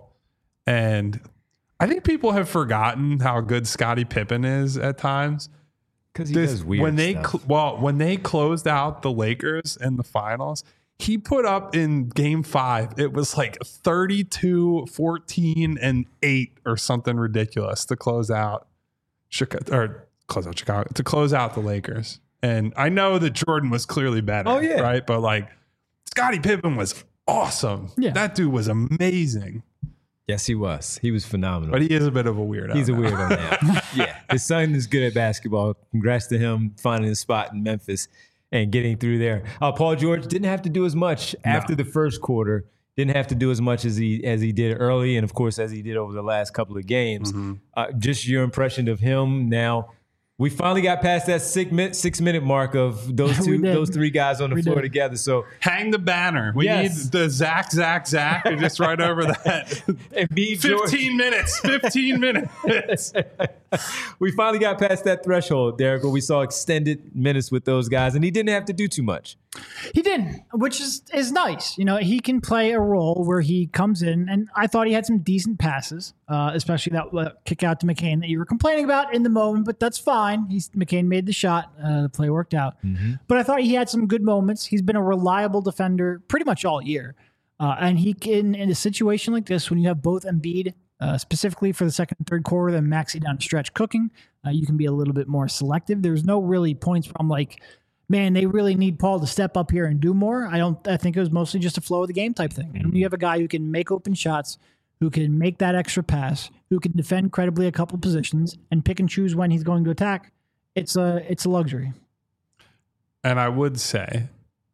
and I think people have forgotten how good Scottie Pippen is at times. Because he This- does weird when they stuff. cl- well when they closed out the Lakers in the finals, he put up in game five, it was like thirty-two, fourteen, and eight or something ridiculous to close out Chicago or close out Chicago to close out the Lakers. And I know that Jordan was clearly better, Oh, yeah. right? But like Scottie Pippen was awesome. Yeah. That dude was amazing. Yes, he was. He was phenomenal. But he is a bit of a weirdo. He's a now. weirdo now. Yeah. His son is good at basketball. Congrats to him finding a spot in Memphis and getting through there. Uh, Paul George didn't have to do as much after the first quarter. Didn't have to do as much as he as he did early, and of course as he did over the last couple of games. Mm-hmm. Uh, just your impression of him now. We finally got past that six minute six minute mark of those We two, did. those three guys on the We floor did. together. So Hang the banner. We Yes. need the Zach, Zach, Zach, just right over that. Embiid, George, fifteen minutes. fifteen minutes. we finally got past that threshold, Derek, where we saw extended minutes with those guys, and he didn't have to do too much. He didn't, which is is nice. You know, he can play a role where he comes in, and I thought he had some decent passes, uh, especially that uh, kick out to McCain that you were complaining about in the moment, but that's fine. He's McCain made the shot. Uh, the play worked out. Mm-hmm. But I thought he had some good moments. He's been a reliable defender pretty much all year. Uh, and he can, in a situation like this, when you have both Embiid, uh, specifically for the second and third quarter, then Maxey down the stretch cooking, uh, you can be a little bit more selective. There's no really points where I'm like, man, they really need Paul to step up here and do more. I don't. I think it was mostly just a flow of the game type thing. And when you have a guy who can make open shots, who can make that extra pass, who can defend credibly a couple positions and pick and choose when he's going to attack, it's a it's a luxury. And I would say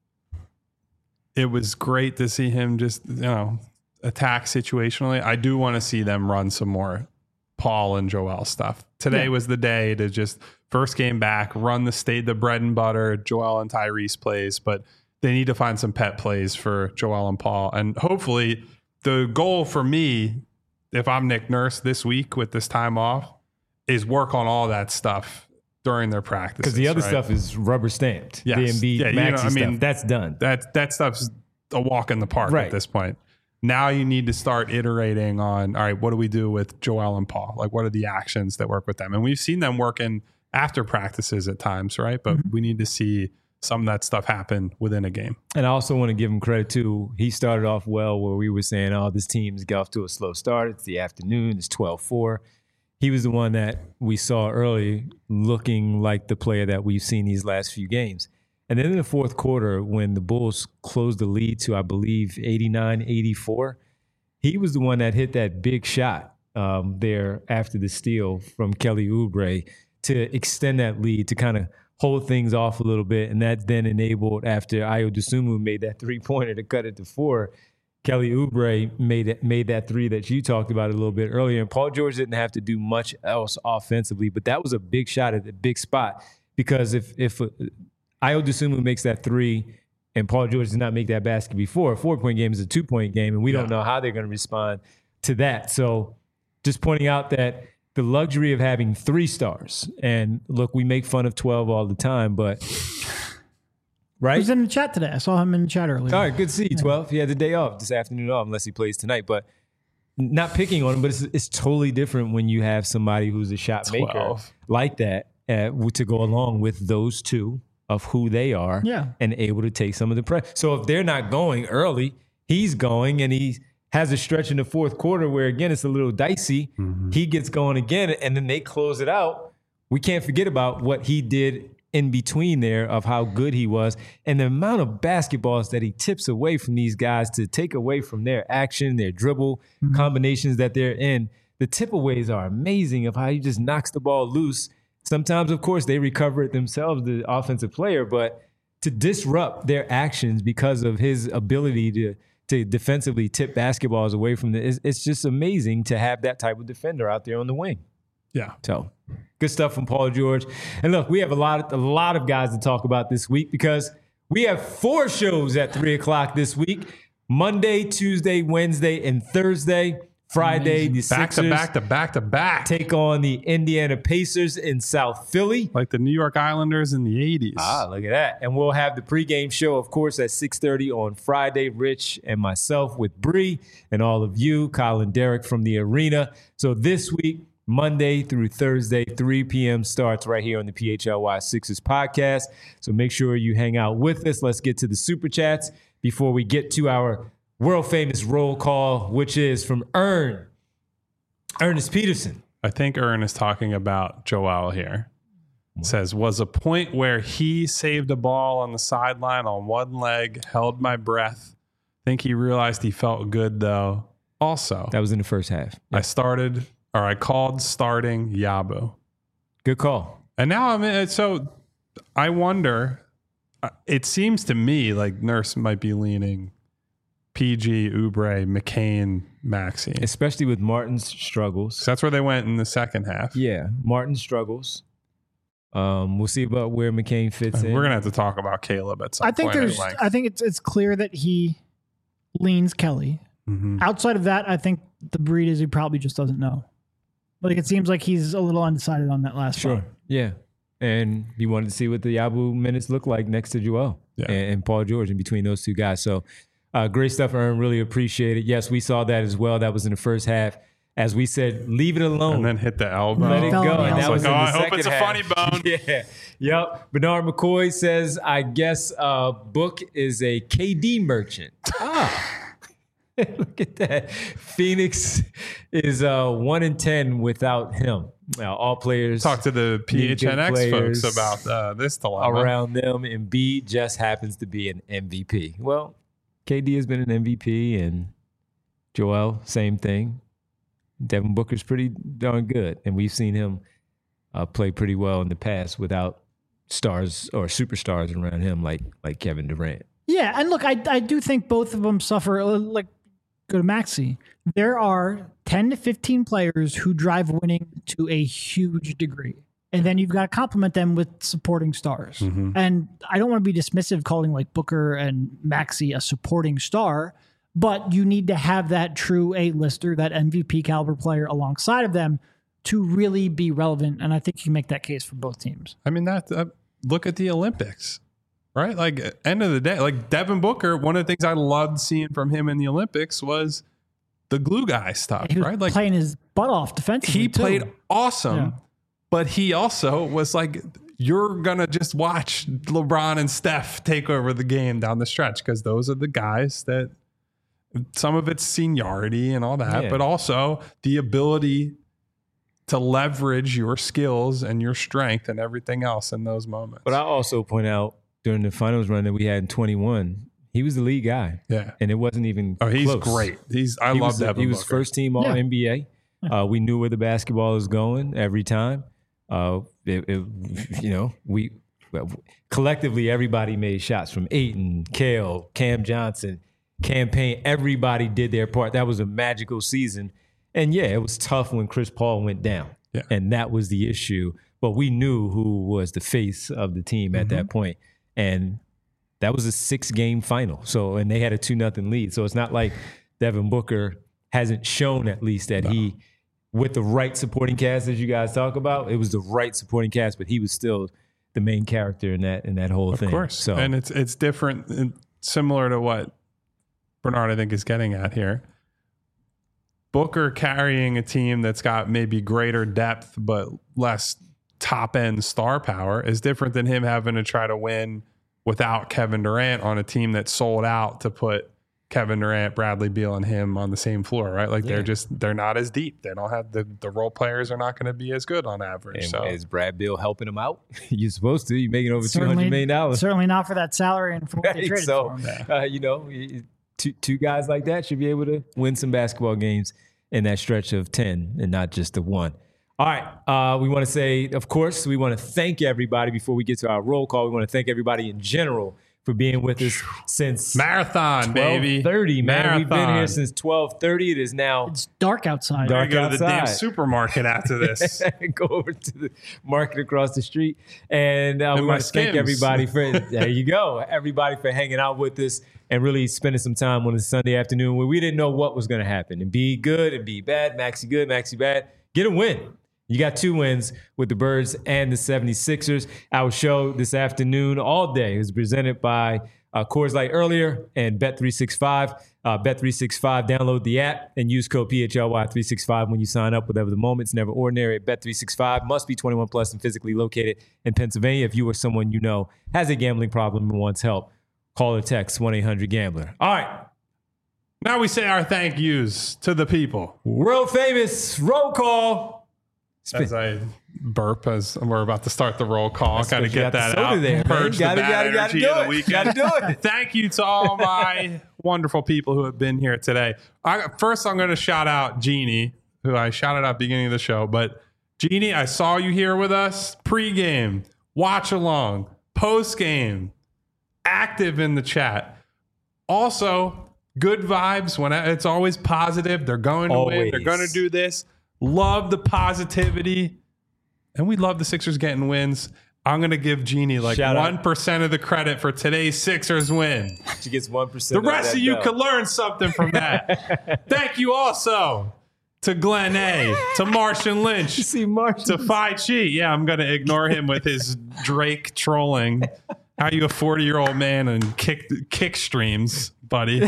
it was great to see him just, you know, attack situationally. I do want to see them run some more Paul and Joel stuff. Today yeah. was the day to just first game back, run the state, the bread and butter, Joel and Tyrese plays, but they need to find some pet plays for Joel and Paul. And hopefully the goal for me, if I'm Nick Nurse this week with this time off, is work on all that stuff during their practices. Because the other right? stuff is rubber stamped. Yes. The Embiid, yeah, Maxey you know, I mean, stuff, that's done. That, that stuff's a walk in the park right. at this point. Now you need to start iterating on, all right, what do we do with Joel and Paul? Like, what are the actions that work with them? And we've seen them working after practices at times, right? But mm-hmm. we need to see some of that stuff happen within a game. And I also want to give him credit, too. He started off well where we were saying, oh, this team's got off to a slow start. It's the afternoon. It's twelve four. He was the one that we saw early looking like the player that we've seen these last few games. And then in the fourth quarter, when the Bulls closed the lead to, I believe, eighty-nine eighty-four, he was the one that hit that big shot um, there after the steal from Kelly Oubre to extend that lead, to kind of hold things off a little bit. And that then enabled, after Ayo Dosunmu made that three-pointer to cut it to four, Kelly Oubre made it, made that three that you talked about a little bit earlier. And Paul George didn't have to do much else offensively, but that was a big shot at a big spot. Because if if uh, Ayo Dosunmu makes that three and Paul George did not make that basket before, a four-point game is a two-point game, and we yeah. don't know how they're going to respond to that. So just pointing out that the luxury of having three stars, and look, we make fun of twelve all the time, but right? He was in the chat today. I saw him in the chat earlier. All right, good to see you, twelve. He had the day off, this afternoon off, unless he plays tonight. But not picking on him, but it's, it's totally different when you have somebody who's a shot maker twelve like that uh, to go along with those two of who they are yeah. and able to take some of the pressure. So if they're not going early, he's going, and he has a stretch in the fourth quarter where, again, it's a little dicey. Mm-hmm. He gets going again, and then they close it out. We can't forget about what he did in between there, of how good he was, and the amount of basketballs that he tips away from these guys to take away from their action, their dribble mm-hmm. combinations that they're in. The tip-aways are amazing of how he just knocks the ball loose. Sometimes, of course, they recover it themselves, the offensive player, but to disrupt their actions because of his ability to to defensively tip basketballs away from the, it's, it's just amazing to have that type of defender out there on the wing. Yeah. So good stuff from Paul George. And look, we have a lot of, a lot of guys to talk about this week, because we have four shows at three o'clock this week: Monday, Tuesday, Wednesday, and Thursday. Friday, the back Sixers to back to back to back take on the Indiana Pacers in South Philly. Like the New York Islanders in the eighties. Ah, look at that. And we'll have the pregame show, of course, at six thirty on Friday. Rich and myself with Bree and all of you, Kyle and Derek from the arena. So this week, Monday through Thursday, three p.m. starts right here on the P H L Y Sixers podcast. So make sure you hang out with us. Let's get to the Super Chats before we get to our world famous roll call, which is from Ern, Ernest Peterson. I think Ern is talking about Joel here. It says, was a point where he saved a ball on the sideline on one leg, held my breath. Think he realized he felt good, though. Also, that was in the first half. I started, or I called starting Yabu. Good call. And now I'm in, so I wonder, it seems to me like Nurse might be leaning P G, Oubre, McCain, Maxey. Especially with Martin's struggles. So that's where they went in the second half. Yeah, Martin struggles. Um, we'll see about where McCain fits We're in. We're gonna have to talk about Caleb at some I think point. there's. I think it's it's clear that he leans Kelly. Mm-hmm. Outside of that, I think the breed is he probably just doesn't know. Like it seems like he's a little undecided on that last Sure. spot. Yeah. And he wanted to see what the Yabu minutes look like next to Joel yeah. and, and Paul George in between those two guys. So uh, great stuff, Ern. Really appreciate it. Yes, we saw that as well. That was in the first half. As we said, leave it alone. And then hit the elbow. Let it go. And that like, was in oh, the I hope second it's a half. funny bone. Yeah. Yep. Bernard McCoy says, I guess uh, Book is a K D merchant. Ah. Look at that. Phoenix is uh, one in ten without him. Now, all players talk to the P H N X folks about uh, this dilemma around them. Embiid just happens to be an M V P. Well, K D has been an M V P, and Joel, same thing. Devin Booker's pretty darn good, and we've seen him uh, play pretty well in the past without stars or superstars around him like like Kevin Durant. Yeah, and look, I I do think both of them suffer. Like, go to Maxey. There are ten to fifteen players who drive winning to a huge degree. And then you've got to complement them with supporting stars. Mm-hmm. And I don't want to be dismissive calling like Booker and Maxey a supporting star, but you need to have that true A-lister, that M V P caliber player alongside of them to really be relevant. And I think you can make that case for both teams. I mean, that uh, look at the Olympics, right? Like, end of the day, like Devin Booker, one of the things I loved seeing from him in the Olympics was the glue guy stuff, he was right? Like playing his butt off defensively. He too. played awesome, Yeah. but he also was like, you're going to just watch LeBron and Steph take over the game down the stretch because those are the guys that some of it's seniority and all that, Yeah. but also the ability to leverage your skills and your strength and everything else in those moments. But I also point out during the finals run that we had in twenty-one, he was the lead guy. Yeah. And it wasn't even Oh, he's close. great. He's I he love was, Devin He was Booker. first team all Yeah. N B A. Uh, we knew where the basketball was going every time. Uh, it, it, you know, we well, collectively everybody made shots from Ayton, Kale, Cam Johnson, Campaign. Everybody did their part. That was a magical season. And yeah, it was tough when Chris Paul went down. Yeah. And that was the issue. But we knew who was the face of the team at Mm-hmm. that point. And that was a six-game final. So, and they had a two nothing lead. So it's not like Devin Booker hasn't shown at least that no. he, with the right supporting cast as you guys talk about, it was the right supporting cast, but he was still the main character in that in that whole of thing. Of course. So, and it's it's different and similar to what Bernard, I think, is getting at here. Booker carrying a team that's got maybe greater depth but less top-end star power is different than him having to try to win without Kevin Durant on a team that sold out to put Kevin Durant, Bradley Beal, and him on the same floor, right? Like yeah. they're just, they're not as deep. They don't have, the, the role players are not going to be as good on average. And so is Brad Beal helping him out? You're supposed to. You're making over certainly, two hundred million dollars. Certainly not for that salary and for what right? they traded so, for him. Uh, you know, two, two guys like that should be able to win some basketball games in that stretch of ten and not just the one. All right. Uh, we want to say, of course, we want to thank everybody before we get to our roll call. We want to thank everybody in general for being with us since marathon, baby. twelve thirty, man. Marathon. We've been here since twelve thirty. It is now it's dark outside. Dark go outside. To the damn supermarket after this. Go over to the market across the street. And, uh, and we want to Skims. thank everybody for, there you go, everybody for hanging out with us and really spending some time on a Sunday afternoon where we didn't know what was going to happen. And be good and be bad. Maxey good, Maxey bad. Get a win. You got two wins with the Birds and the seventy-sixers. Our show this afternoon all day is presented by uh, Coors Light earlier and Bet three sixty-five. Uh, Bet three sixty-five, download the app and use code P H L Y three sixty-five when you sign up. Whatever the moment's never ordinary at Bet three sixty-five. Must be twenty-one plus and physically located in Pennsylvania. If you or someone you know has a gambling problem and wants help, call or text one eight hundred gambler. All right. Now we say our thank yous to the people. World famous roll call. As I burp as we're about to start the roll call, kind of get that out, there, purge gotta, the bad gotta, energy gotta of the weekend. Gotta do it. Thank you to all my wonderful people who have been here today. I, first, I'm going to shout out Jeannie, who I shouted out at the beginning of the show. But Jeannie, I saw you here with us pregame, watch along, postgame, active in the chat. Also, good vibes. When I, it's always positive. They're going to always. win. They're going to do this. Love the positivity. And we love the Sixers getting wins. I'm going to give Jeannie like Shout one percent out. Of the credit for today's Sixers win. She gets one percent. The rest of, of you bell. could learn something from that. Thank you also to Glenn A, to Martian Lynch, You see Martian. to Phi Chi. Yeah, I'm going to ignore him with his Drake trolling. How you a forty-year-old man and kick kick streams, buddy?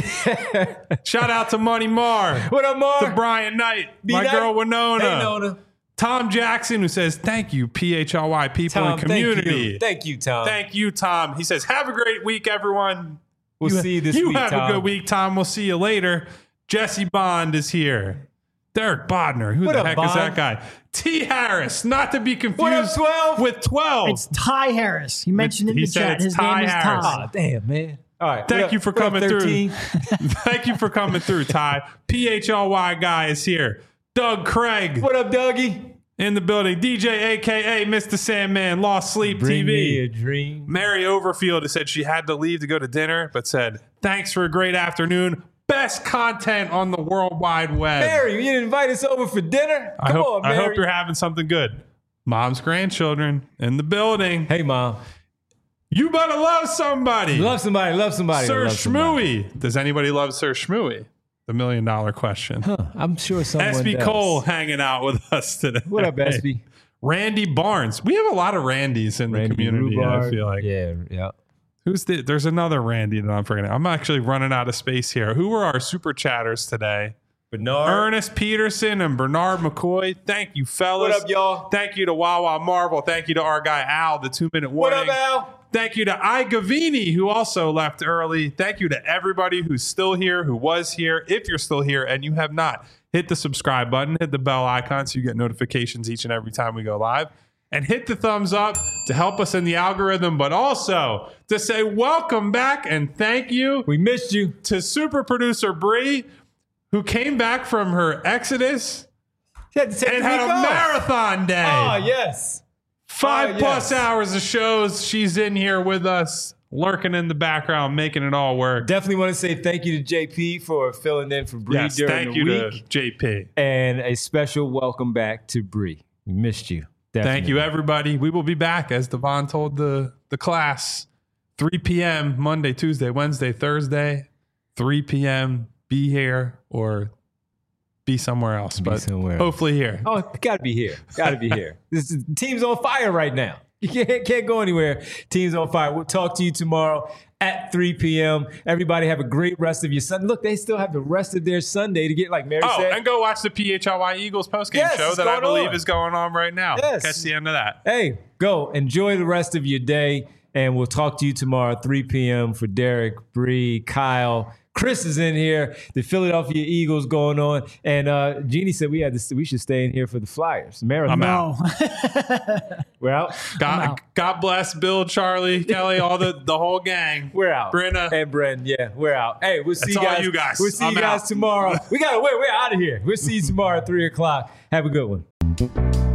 Shout out to Money Mar. What up, Mar? To Brian Knight. My B-Knight. girl Winona. Hey, Nona. Tom Jackson, who says, thank you, P H L Y, people Tom, in community. Thank you. Thank you, Tom. Thank you, Tom. He says, have a great week, everyone. We'll you, see you this you week, have Tom. a good week, Tom. We'll see you later. Jesse Bond is here. Derek Bodner. Who What the up, heck Bond? is that guy? T. Harris, not to be confused What up, twelve? with twelve. It's Ty Harris. He mentioned in He the said chat. it's His Ty name is Harris. Ty. Oh, damn, man. All right. Thank what you up- for what up, coming through. thirteen? Thank you for coming through, Ty. P H L Y guy is here. Doug Craig What up, Dougie? in the building. D J, a k a. Mister Sandman, Lost Sleep Bring T V. me a dream. Mary Overfield has said she had to leave to go to dinner, but said, thanks for a great afternoon. Best content on the World Wide Web. Mary, you didn't invite us over for dinner? I Come hope, on, Mary. I hope you're having something good. Mom's grandchildren in the building. Hey, Mom. You better love somebody. Love somebody. Love somebody. Sir love somebody. Schmooey. Does anybody love Sir Schmooey? The million dollar question. Huh, I'm sure someone S B does. Cole hanging out with us today. What up, S B? Randy Barnes. We have a lot of Randys in Randy the community, Rhubarb. I feel like. Yeah, yeah. Who's the, there's another Randy that I'm forgetting. I'm actually running out of space here. Who were our super chatters today? Bernard. Ernest Peterson and Bernard McCoy. Thank you, fellas. What up, y'all? Thank you to Wawa Marvel. Thank you to our guy Al, the two minute What warning. up, Al? Thank you to I Gavini, who also left early. Thank you to everybody who's still here, who was here. If you're still here and you have not, hit the subscribe button, hit the bell icon so you get notifications each and every time we go live. And hit the thumbs up to help us in the algorithm, but also to say welcome back and thank you We missed you. to super producer Bree, who came back from her exodus She had to take and the had week a off. marathon day. Oh, yes. Five Oh, plus yes. hours of shows. She's in here with us, lurking in the background, making it all work. Definitely want to say thank you to J P for filling in for Bree Yes, during thank the you week. to J P. And a special welcome back to Bree. We missed you. Thank Definitely. you, everybody. We will be back, as Devon told the, the class, three p.m. Monday, Tuesday, Wednesday, Thursday, three p.m. Be here or be somewhere else, Be but somewhere else. hopefully here. Oh, gotta be here. Gotta be here. This is, team's on fire right now. You can't, can't go anywhere. Team's on fire. We'll talk to you tomorrow at three p.m. Everybody have a great rest of your Sunday. Look, they still have the rest of their Sunday to get, like Mary Oh, said. and go watch the P H L Y Eagles postgame Yes, show it's that I going believe on. is going on right now. Yes. Catch the end of that. Hey, go enjoy the rest of your day, and we'll talk to you tomorrow at three p.m. for Derek, Bree, Kyle. Chris is in here. The Philadelphia Eagles going on, and uh, Jeannie said we had to, we should stay in here for the Flyers marathon. I'm out. No. We're out. God, out. God bless Bill, Charlie, Kelly, all the, the whole gang. We're out. Brenna. and Bren. Yeah, we're out. Hey, we'll see That's you all guys. you guys. We'll see I'm you guys out. tomorrow. We gotta wait. We're out of here. We'll see you tomorrow at three o'clock. Have a good one.